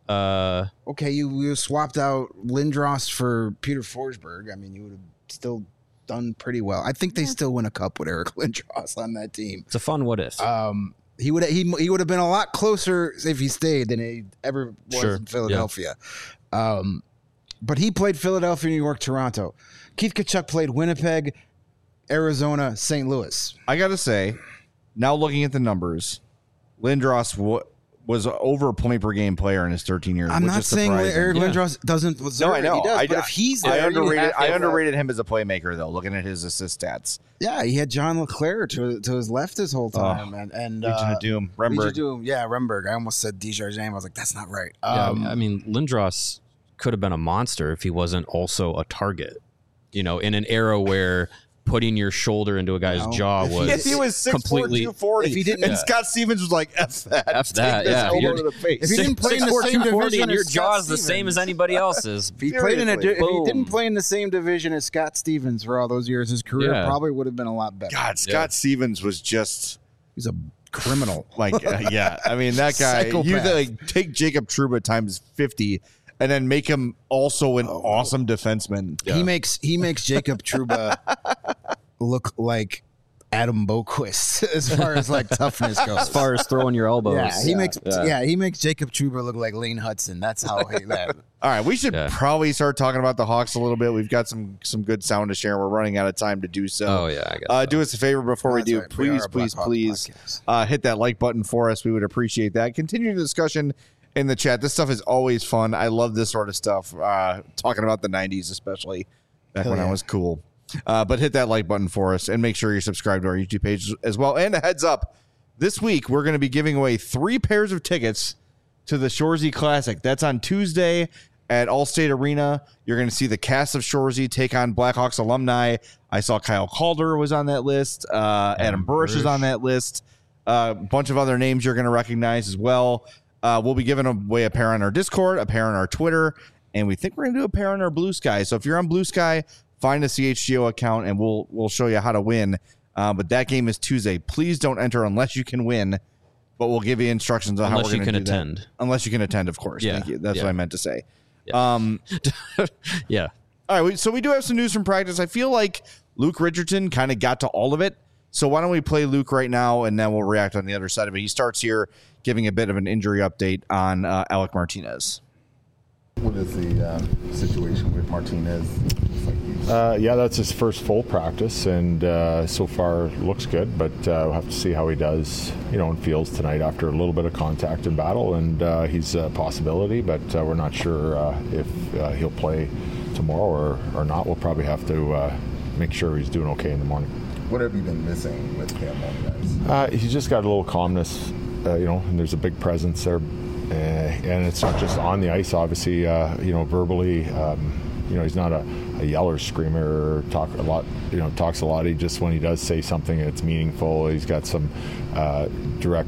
Okay, you swapped out Lindros for Peter Forsberg. I mean, you would have still done pretty well. I think they still win a cup with Eric Lindros on that team. It's a fun what if. He would have been a lot closer if he stayed than he ever was in Philadelphia. Yeah. But he played Philadelphia, New York, Toronto. Keith Tkachuk played Winnipeg, Arizona, St. Louis. I got to say, now looking at the numbers, Lindros was over a point per game player in his 13 years. I'm not saying Eric Lindros doesn't deserve I know. He does, but if he's there, I underrated him as a playmaker, though, looking at his assist stats. Yeah, he had John LeClaire to his left this whole time. and Legion of Doom. Remberg. Remberg. I almost said Desjardins. I was like, that's not right. I mean, Lindros could have been a monster if he wasn't also a target. You know, in an era where putting your shoulder into a guy's jaw was he was 6'4", completely 240. If he didn't, and Scott Stevens was like, F that. Yeah. To the face. If he didn't play in the same division and your jaw is the same as anybody else's. If he didn't play in the same division as Scott Stevens for all those years, his career probably would have been a lot better. God, Scott Stevens was just... He's a criminal. Like, I mean, that guy... You take Jacob Trouba times 50... and then make him also an awesome defenseman. Yeah. He makes Jacob Trouba look like Adam Boquist as far as like toughness goes. As far as throwing your elbows. He makes Jacob Trouba look like Lane Hudson. That's how he that. All right, we should probably start talking about the Hawks a little bit. We've got some good sound to share. We're running out of time to do so. Oh yeah, I guess do us a favor before we do. Right. Please hit that like button for us. We would appreciate that. Continue the discussion in the chat. This stuff is always fun. I love this sort of stuff. Talking about the 90s, especially back when I was cool. But hit that like button for us and make sure you're subscribed to our YouTube page as well. And a heads up, this week we're going to be giving away 3 pairs of tickets to the Shoresy Classic. That's on Tuesday at Allstate Arena. You're going to see the cast of Shoresy take on Blackhawks alumni. I saw Kyle Calder was on that list. Adam Burish is on that list. A bunch of other names you're going to recognize as well. We'll be giving away a pair on our Discord, a pair on our Twitter, and we think we're going to do a pair on our Blue Sky. So if you're on Blue Sky, find a CHGO account, and we'll show you how to win. But that game is Tuesday. Please don't enter unless you can win, but we'll give you instructions on how we're going to do attend. That. Unless you can attend, of course. Yeah. Thank you. That's what I meant to say. Yeah. Yeah. All right, so we do have some news from practice. I feel like Luke Richardson kind of got to all of it. So why don't we play Luke right now, and then we'll react on the other side of it. He starts here giving a bit of an injury update on Alec Martinez. What is the situation with Martinez? Yeah, that's his first full practice, and so far looks good, but we'll have to see how he does, in fields tonight after a little bit of contact and battle, and he's a possibility, but we're not sure if he'll play tomorrow or not. We'll probably have to make sure he's doing okay in the morning. What have you been missing with him on guys? He's just got a little calmness, and there's a big presence there. And it's not just on the ice, obviously, verbally. He's not a yeller, screamer, or talks a lot. He just, when he does say something, it's meaningful. He's got some direct,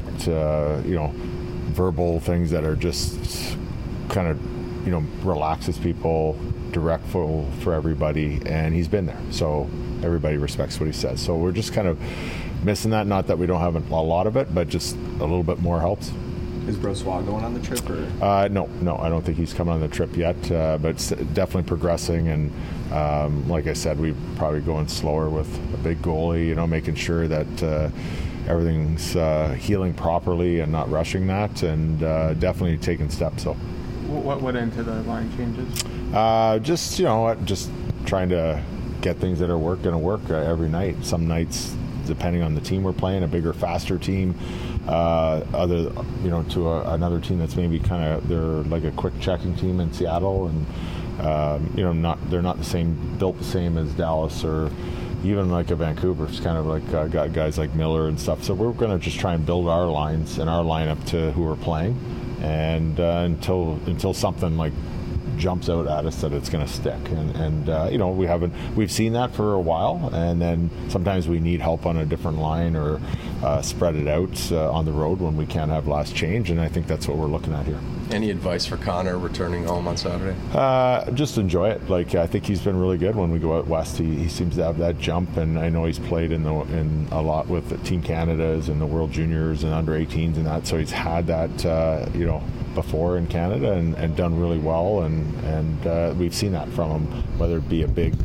verbal things that are just kind of, relaxes people, direct for everybody. And he's been there. So everybody respects what he says. So we're just kind of missing that. Not that we don't have a lot of it, but just a little bit more helps. Is Brossoit going on the trip? Or? No, I don't think he's coming on the trip yet, but it's definitely progressing. And like I said, we're probably going slower with a big goalie, making sure that everything's healing properly and not rushing that, and definitely taking steps. So, what went into the line changes? Just just trying to get things that are going to work every night. Some nights, depending on the team we're playing, a bigger, faster team, to another team that's maybe they're like a quick checking team in Seattle, and they're not built the same as Dallas or even like a Vancouver. It's kind of like got guys like Miller and stuff. So we're going to just try and build our lines and our lineup to who we're playing, and until something like jumps out at us that it's going to stick, and we've seen that for a while, and then sometimes we need help on a different line or spread it out on the road when we can't have last change, and I think that's what we're looking at here. Any advice for Connor returning home on Saturday? Just enjoy it. I think he's been really good when we go out west. He seems to have that jump, and I know he's played in a lot with Team Canada's and the World Juniors and under 18s and that, so he's had that before in Canada and done really well, and we've seen that from him, whether it be a big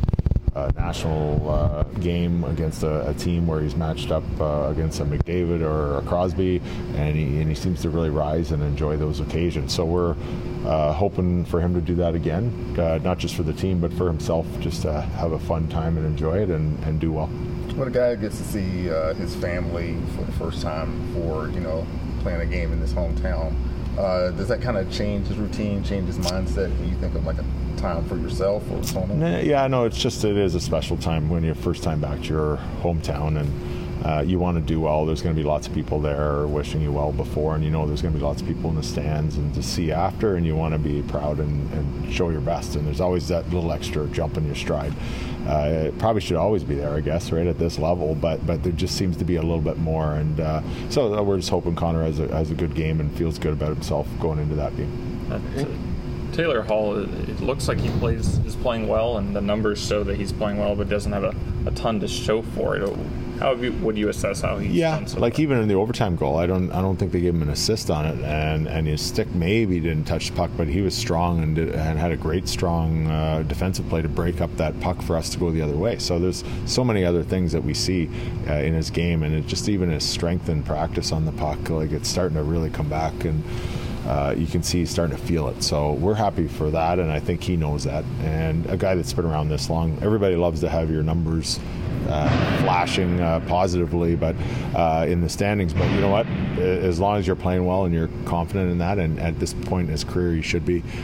national game against a team where he's matched up against a McDavid or a Crosby, and he seems to really rise and enjoy those occasions. So we're hoping for him to do that again, not just for the team but for himself, just to have a fun time and enjoy it and do well. When a guy gets to see his family for the first time for playing a game in his hometown, does that kind of change his routine, change his mindset when you think of like a time for yourself or someone? Yeah, no, it is a special time when you're first time back to your hometown, and you want to do well. There's going to be lots of people there wishing you well before, and there's going to be lots of people in the stands and to see after, and you want to be proud and show your best, and there's always that little extra jump in your stride. It probably should always be there, I guess, right at this level, but there just seems to be a little bit more, and so we're just hoping Connor has a good game and feels good about himself going into that game. Taylor Hall, it looks like is playing well, and the numbers show that he's playing well, but doesn't have a ton to show for it. How would you assess how he's done so far? Even in the overtime goal, I don't think they gave him an assist on it, and his stick maybe didn't touch the puck, but he was strong and had a great strong defensive play to break up that puck for us to go the other way. So there's so many other things that we see in his game, and it just even his strength and practice on the puck, it's starting to really come back, and you can see he's starting to feel it. So we're happy for that, and I think he knows that. And a guy that's been around this long, everybody loves to have your numbers flashing positively, but in the standings. But you know what? As long as you're playing well and you're confident in that, and at this point in his career, you should be.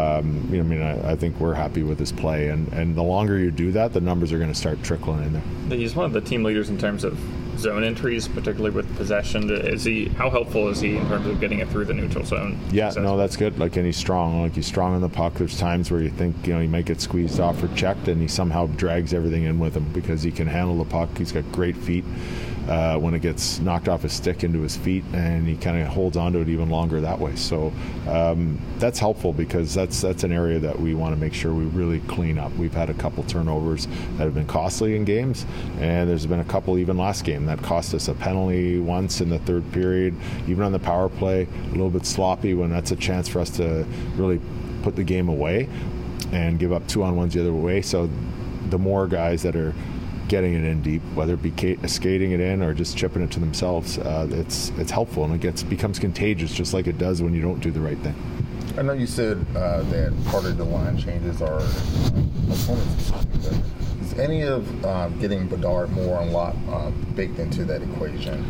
I think we're happy with his play, and the longer you do that, the numbers are going to start trickling in there. He's one of the team leaders in terms of zone entries, particularly with possession. How helpful is he in terms of getting it through the neutral zone? Yeah, no, that's good. And he's strong. He's strong on the puck. There's times where you think he might get squeezed off or checked, and he somehow drags everything in with him because he can handle the puck. He's got great feet. When it gets knocked off his stick into his feet, and he kind of holds onto it even longer that way. So that's helpful because that's an area that we want to make sure we really clean up. We've had a couple turnovers that have been costly in games, and there's been a couple even last game that cost us a penalty once in the third period, even on the power play, a little bit sloppy when that's a chance for us to really put the game away and give up 2-on-1s the other way. So the more guys that are getting it in deep, whether it be skating it in or just chipping it to themselves, it's helpful, and it becomes contagious, just like it does when you don't do the right thing. I know you said that part of the line changes are opponents. Is any of getting Bedard more on lock baked into that equation?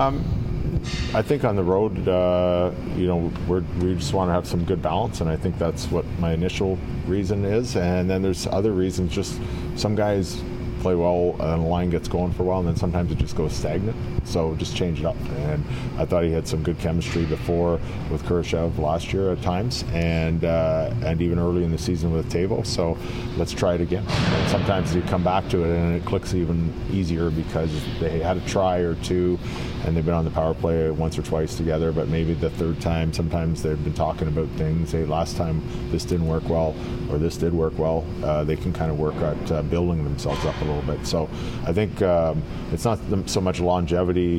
I think on the road, we just want to have some good balance, and I think that's what my initial reason is. And then there's other reasons. Just some guys play well and the line gets going for a while, and then sometimes it just goes stagnant, so just change it up. And I thought he had some good chemistry before with Kurashev last year at times, and even early in the season with Tavo, so let's try it again. And sometimes you come back to it and it clicks even easier because they had a try or two and they've been on the power play once or twice together, but maybe the third time, sometimes they've been talking about things. Hey, last time this didn't work well, or this did work well. They can kind of work at building themselves up a little bit. So I think it's not so much longevity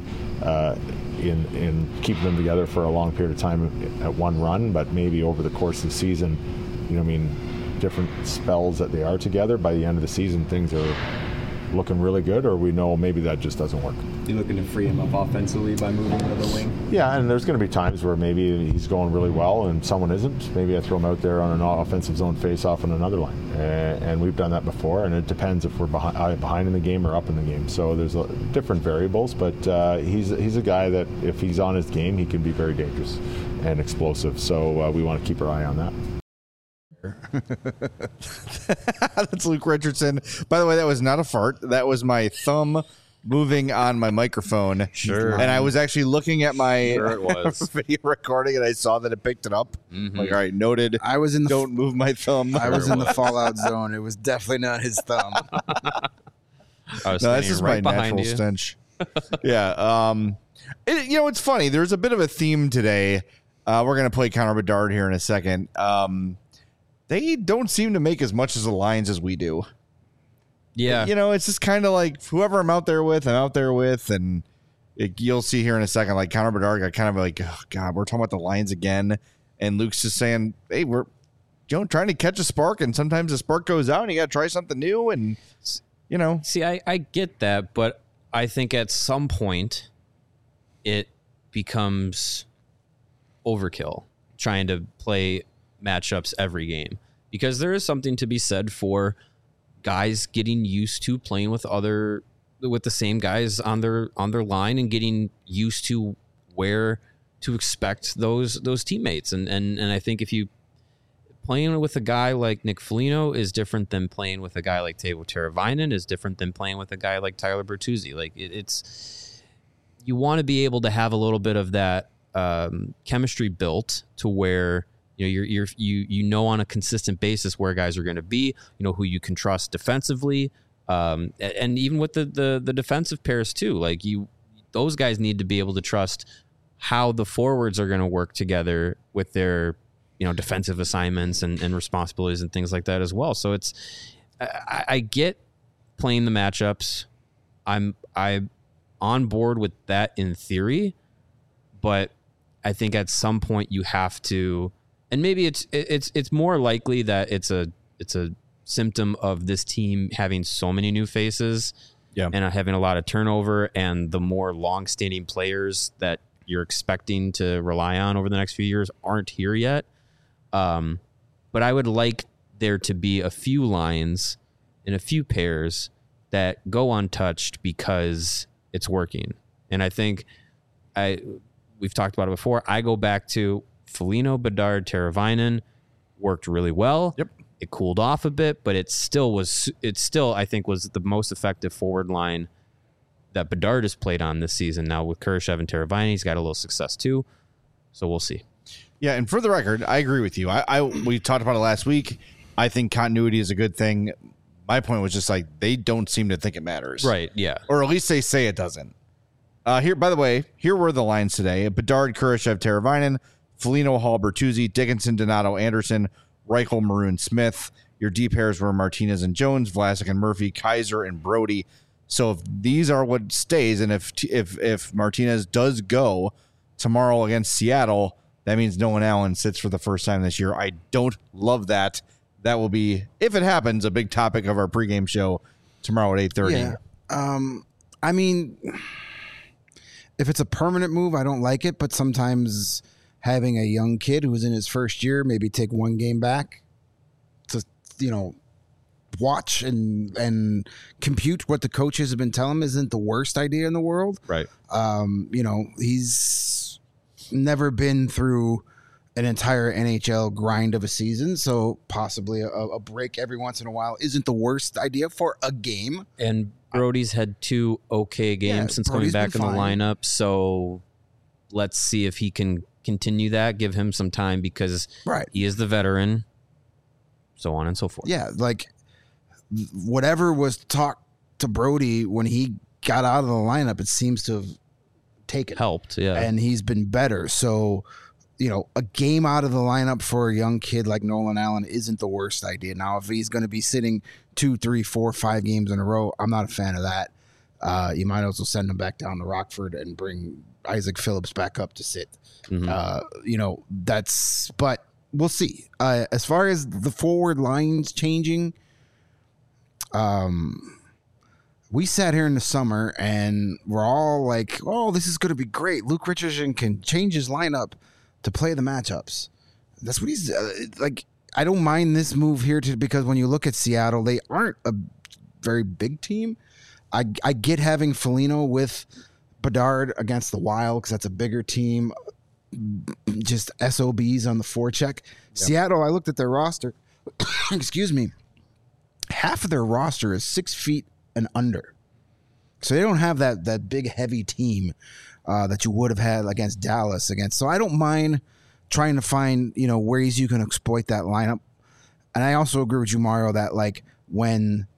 in keeping them together for a long period of time at one run, but maybe over the course of the season, different spells that they are together. By the end of the season, things are looking really good, or we know maybe that just doesn't work. You looking to free him up offensively by moving to the wing? Yeah, and there's going to be times where maybe he's going really well and someone isn't. Maybe I throw him out there on an offensive zone face-off on another line. And we've done that before, and it depends if we're behind in the game or up in the game. So there's different variables, but he's a guy that if he's on his game, he can be very dangerous and explosive. So we want to keep our eye on that. That's Luke Richardson. By the way, that was not a fart. That was my thumb moving on my microphone. Sure. And I was actually looking at my Sure it was. video recording, and I saw that it picked it up. Like, all right, noted. I was in the Don't move my thumb. I was in the fallout zone. It was definitely not his thumb. I was No, that's standing just right my behind natural you. stench. Yeah. It's funny. There's a bit of a theme today. We're going to play Connor Bedard here in a second. They don't seem to make as much as the Lions as we do. Yeah. It's just kind of like whoever I'm out there with, and you'll see here in a second, like Connor Bedard got kind of like, oh God, we're talking about the Lions again. And Luke's just saying, hey, we're trying to catch a spark, and sometimes the spark goes out and you got to try something new. And, See, I get that, but I think at some point it becomes overkill trying to play matchups every game, because there is something to be said for guys getting used to playing with the same guys on their line and getting used to where to expect those teammates. And I think if you playing with a guy like Nick Foligno is different than playing with a guy like Teuvo Teravainen, is different than playing with a guy like Tyler Bertuzzi. Like it's you want to be able to have a little bit of that chemistry built to where you know on a consistent basis where guys are going to be, who you can trust defensively, and even with the defensive pairs too. Like those guys need to be able to trust how the forwards are going to work together with their defensive assignments and responsibilities and things like that as well. So I get playing the matchups. I'm on board with that in theory, but I think at some point you have to. And maybe it's more likely that it's a symptom of this team having so many new faces, and having a lot of turnover, and the more long-standing players that you're expecting to rely on over the next few years aren't here yet. But I would like there to be a few lines and a few pairs that go untouched because it's working. And I think we've talked about it before. I go back to Foligno, Bedard, Teravainen worked really well. Yep. It cooled off a bit, but it still I think was the most effective forward line that Bedard has played on this season. Now with Kurashev and Teravainen, he's got a little success too. So we'll see. Yeah, and for the record, I agree with you. We talked about it last week. I think continuity is a good thing. My point was just like they don't seem to think it matters. Right, yeah. Or at least they say it doesn't. Here, by the way, here were the lines today. Bedard, Kurashev, Teravainen, Foligno, Hall, Bertuzzi, Dickinson, Donato, Anderson, Reichel, Maroon, Smith. Your D pairs were Martinez and Jones, Vlasic and Murphy, Kaiser and Brody. So if these are what stays, and if Martinez does go tomorrow against Seattle, that means Nolan Allen sits for the first time this year. I don't love that. That will be, if it happens, a big topic of our pregame show tomorrow at 8:30. Yeah. I mean, if it's a permanent move, I don't like it, but sometimes having a young kid who's in his first year, maybe take one game back to, watch and compute what the coaches have been telling him isn't the worst idea in the world. Right. He's never been through an entire NHL grind of a season, so possibly a break every once in a while isn't the worst idea for a game. And Brody's had 2 okay games since Brody's coming back in been the fine. lineup, so let's see if he can continue that, give him some time because he is the veteran, so on and so forth. Yeah, like whatever was talked to Brody when he got out of the lineup, it seems to have helped, yeah. And he's been better. So, a game out of the lineup for a young kid like Nolan Allen isn't the worst idea. Now, if he's going to be sitting 2, 3, 4, 5 games in a row, I'm not a fan of that. You might also send him back down to Rockford and bring Isaac Phillips back up to sit. But we'll see. As far as the forward lines changing, we sat here in the summer and we're all like, oh, this is going to be great. Luke Richardson can change his lineup to play the matchups. That's what he's like. I don't mind this move here because when you look at Seattle, they aren't a very big team. I get having Foligno with Bedard against the Wild because that's a bigger team. Just SOBs on the forecheck. Yep. Seattle, I looked at their roster. Excuse me. Half of their roster is 6 feet and under. So they don't have that big, heavy team that you would have had against Dallas. So I don't mind trying to find, ways you can exploit that lineup. And I also agree with you, Mario, that like when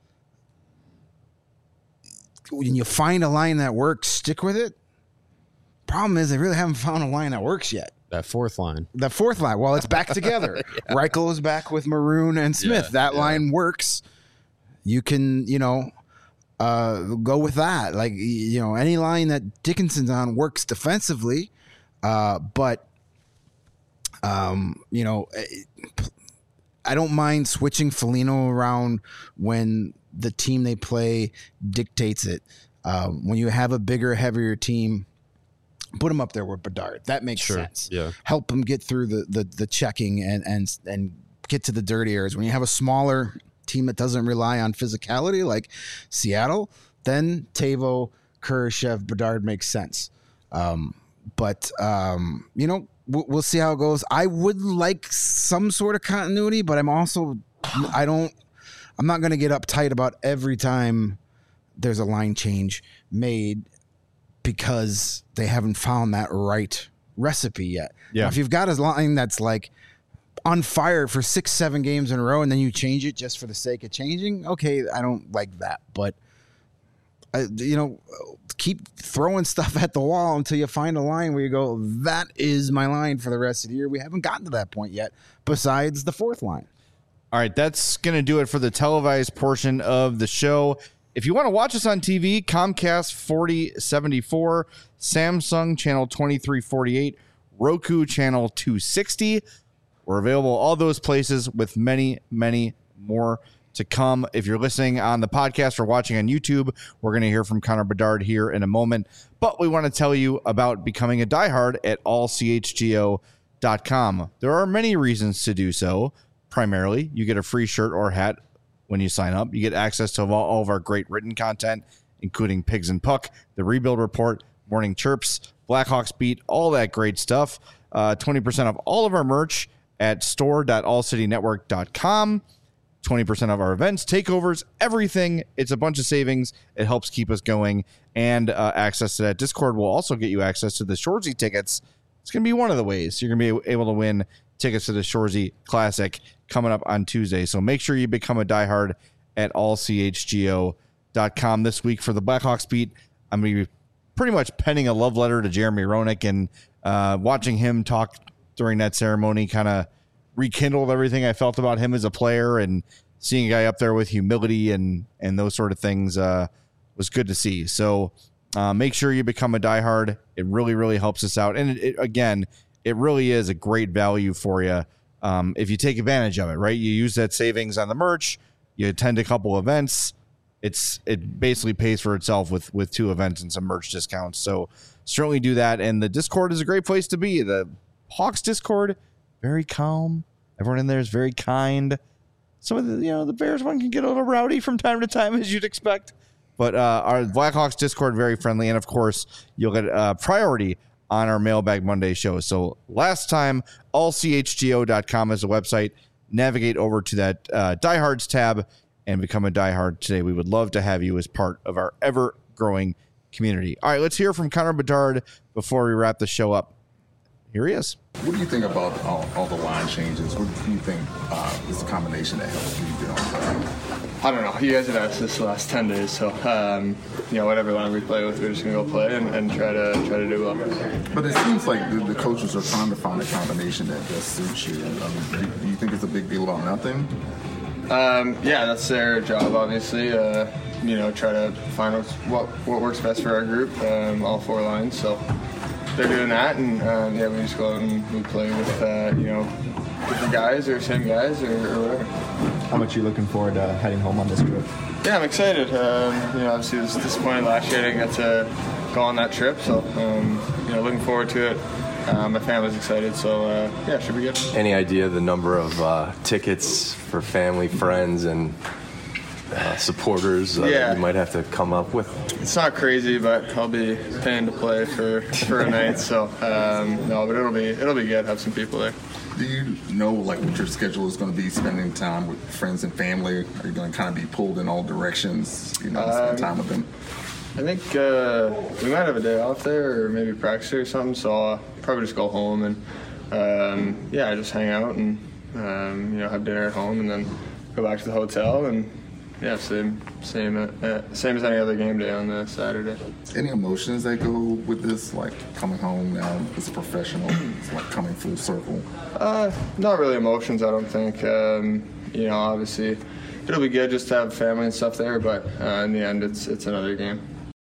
you find a line that works, stick with it. Problem is they really haven't found a line that works yet. That fourth line. Well, it's back together. Yeah. Reichel is back with Maroon and Smith. That line works. You can, go with that. Like, any line that Dickinson's on works defensively. But I don't mind switching Foligno around when the team they play dictates it. When you have a bigger, heavier team, put him up there with Bedard. That makes sense. Yeah. Help him get through the checking and get to the dirty areas. When you have a smaller team that doesn't rely on physicality like Seattle, then Teuvo, Kurashev, Bedard makes sense. But we'll see how it goes. I would like some sort of continuity, but I'm not going to get uptight about every time there's a line change made because they haven't found that right recipe yet. Yeah. Now, if you've got a line that's like on fire for 6-7 games in a row and then you change it just for the sake of changing, okay, I don't like that. But keep throwing stuff at the wall until you find a line where you go, that is my line for the rest of the year. We haven't gotten to that point yet, besides the fourth line. All right, that's going to do it for the televised portion of the show. If you want to watch us on TV, Comcast 4074, Samsung channel 2348, Roku channel 260. We're available all those places with many, many more to come. If you're listening on the podcast or watching on YouTube, we're going to hear from Connor Bedard here in a moment. But we want to tell you about becoming a diehard at allchgo.com. There are many reasons to do so. Primarily, you get a free shirt or hat when you sign up. You get access to all of our great written content, including Pigs and Puck, The Rebuild Report, Morning Chirps, Blackhawks Beat, all that great stuff. 20% of all of our merch at store.allcitynetwork.com. 20% of our events, takeovers, everything. It's a bunch of savings. It helps keep us going. And access to that Discord will also get you access to the Shoresy tickets. It's going to be one of the ways you're going to be able to win tickets to the Shoresy Classic coming up on Tuesday. So make sure you become a diehard at allchgo.com. This week for the Blackhawks Beat, I'm going to be pretty much penning a love letter to Jeremy Roenick, and watching him talk during that ceremony kind of rekindled everything I felt about him as a player, and seeing a guy up there with humility and those sort of things was good to see. So make sure you become a diehard. It really, really helps us out. And it really is a great value for you if you take advantage of it, right? You use that savings on the merch, you attend a couple events. It basically pays for itself with 2 events and some merch discounts. So certainly do that. And the Discord is a great place to be. The Hawks Discord, very calm. Everyone in there is very kind. Some of the Bears one can get a little rowdy from time to time, as you'd expect. But our Blackhawks Discord, very friendly. And of course, you'll get priority on our Mailbag Monday show. So last time, allchgo.com is the website. Navigate over to that Diehards tab and become a diehard today. We would love to have you as part of our ever-growing community. All right, let's hear from Connor Bedard before we wrap the show up. Here he is. What do you think about all the line changes? What do you think is the combination that helps you get on track? I don't know. You guys have asked this the last 10 days, so whatever line we play with, we're just gonna go play and try to do well. But it seems like the coaches are trying to find a combination that best suits you. Do you think it's a big deal about nothing? Yeah, that's their job, obviously. Try to find what works best for our group, all 4 lines. So they're doing that, and we just go out and we play with different guys or same guys or whatever. how much you're looking forward to heading home on this trip. Yeah, I'm excited. Obviously it was disappointing last year I didn't get to go on that trip, so looking forward to it. My family's excited, so it should be good. Any idea the number of tickets for family, friends, and supporters that you might have to come up with? It's not crazy, but I'll be paying to play for a night, so but it'll be good. Have some people there. Do you know what your schedule is going to be spending time with friends and family? Are you going to kind of be pulled in all directions, spend time with them? I think we might have a day off there or maybe practice or something, so I'll probably just go home and just hang out and have dinner at home and then go back to the hotel and same as any other game day on the Saturday. Any emotions that go with this, like coming home now as a professional? It's like coming full circle. Not really emotions, I don't think. Obviously it'll be good just to have family and stuff there, but in the end it's another game.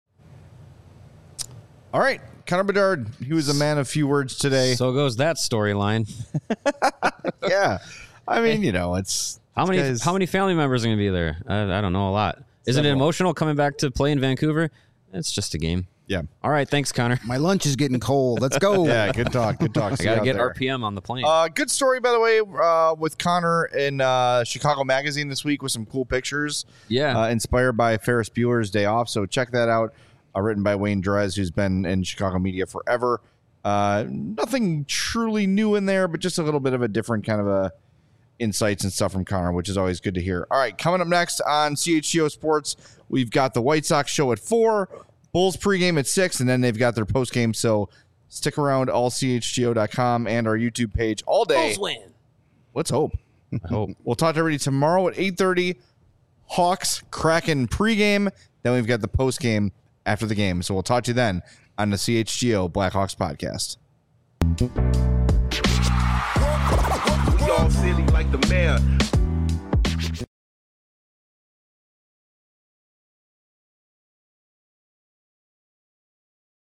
All right, Connor Bedard, he was a man of few words today. So goes that storyline. Yeah, I mean, it's how many family members are going to be there? I don't know, a lot. Isn't it emotional coming back to play in Vancouver? It's just a game. Yeah. All right, thanks, Connor. My lunch is getting cold. Let's go. Yeah, good talk. Good talk. I got to get RPM on the plane. Good story, by the way, with Connor in Chicago Magazine this week with some cool pictures. Yeah. Inspired by Ferris Bueller's Day Off. So check that out. Written by Wayne Drez, who's been in Chicago media forever. Nothing truly new in there, but just a little bit of a different kind of insights and stuff from Connor, which is always good to hear. All right, coming up next on CHGO Sports, we've got the White Sox show at 4, Bulls pregame at 6, and then they've got their postgame. So stick around, allchgo.com and our YouTube page all day. Bulls win. Let's hope. I hope. We'll talk to everybody tomorrow at 8:30. Hawks Kraken pregame. Then we've got the postgame after the game. So we'll talk to you then on the CHGO Blackhawks podcast. We all silly like the mayor.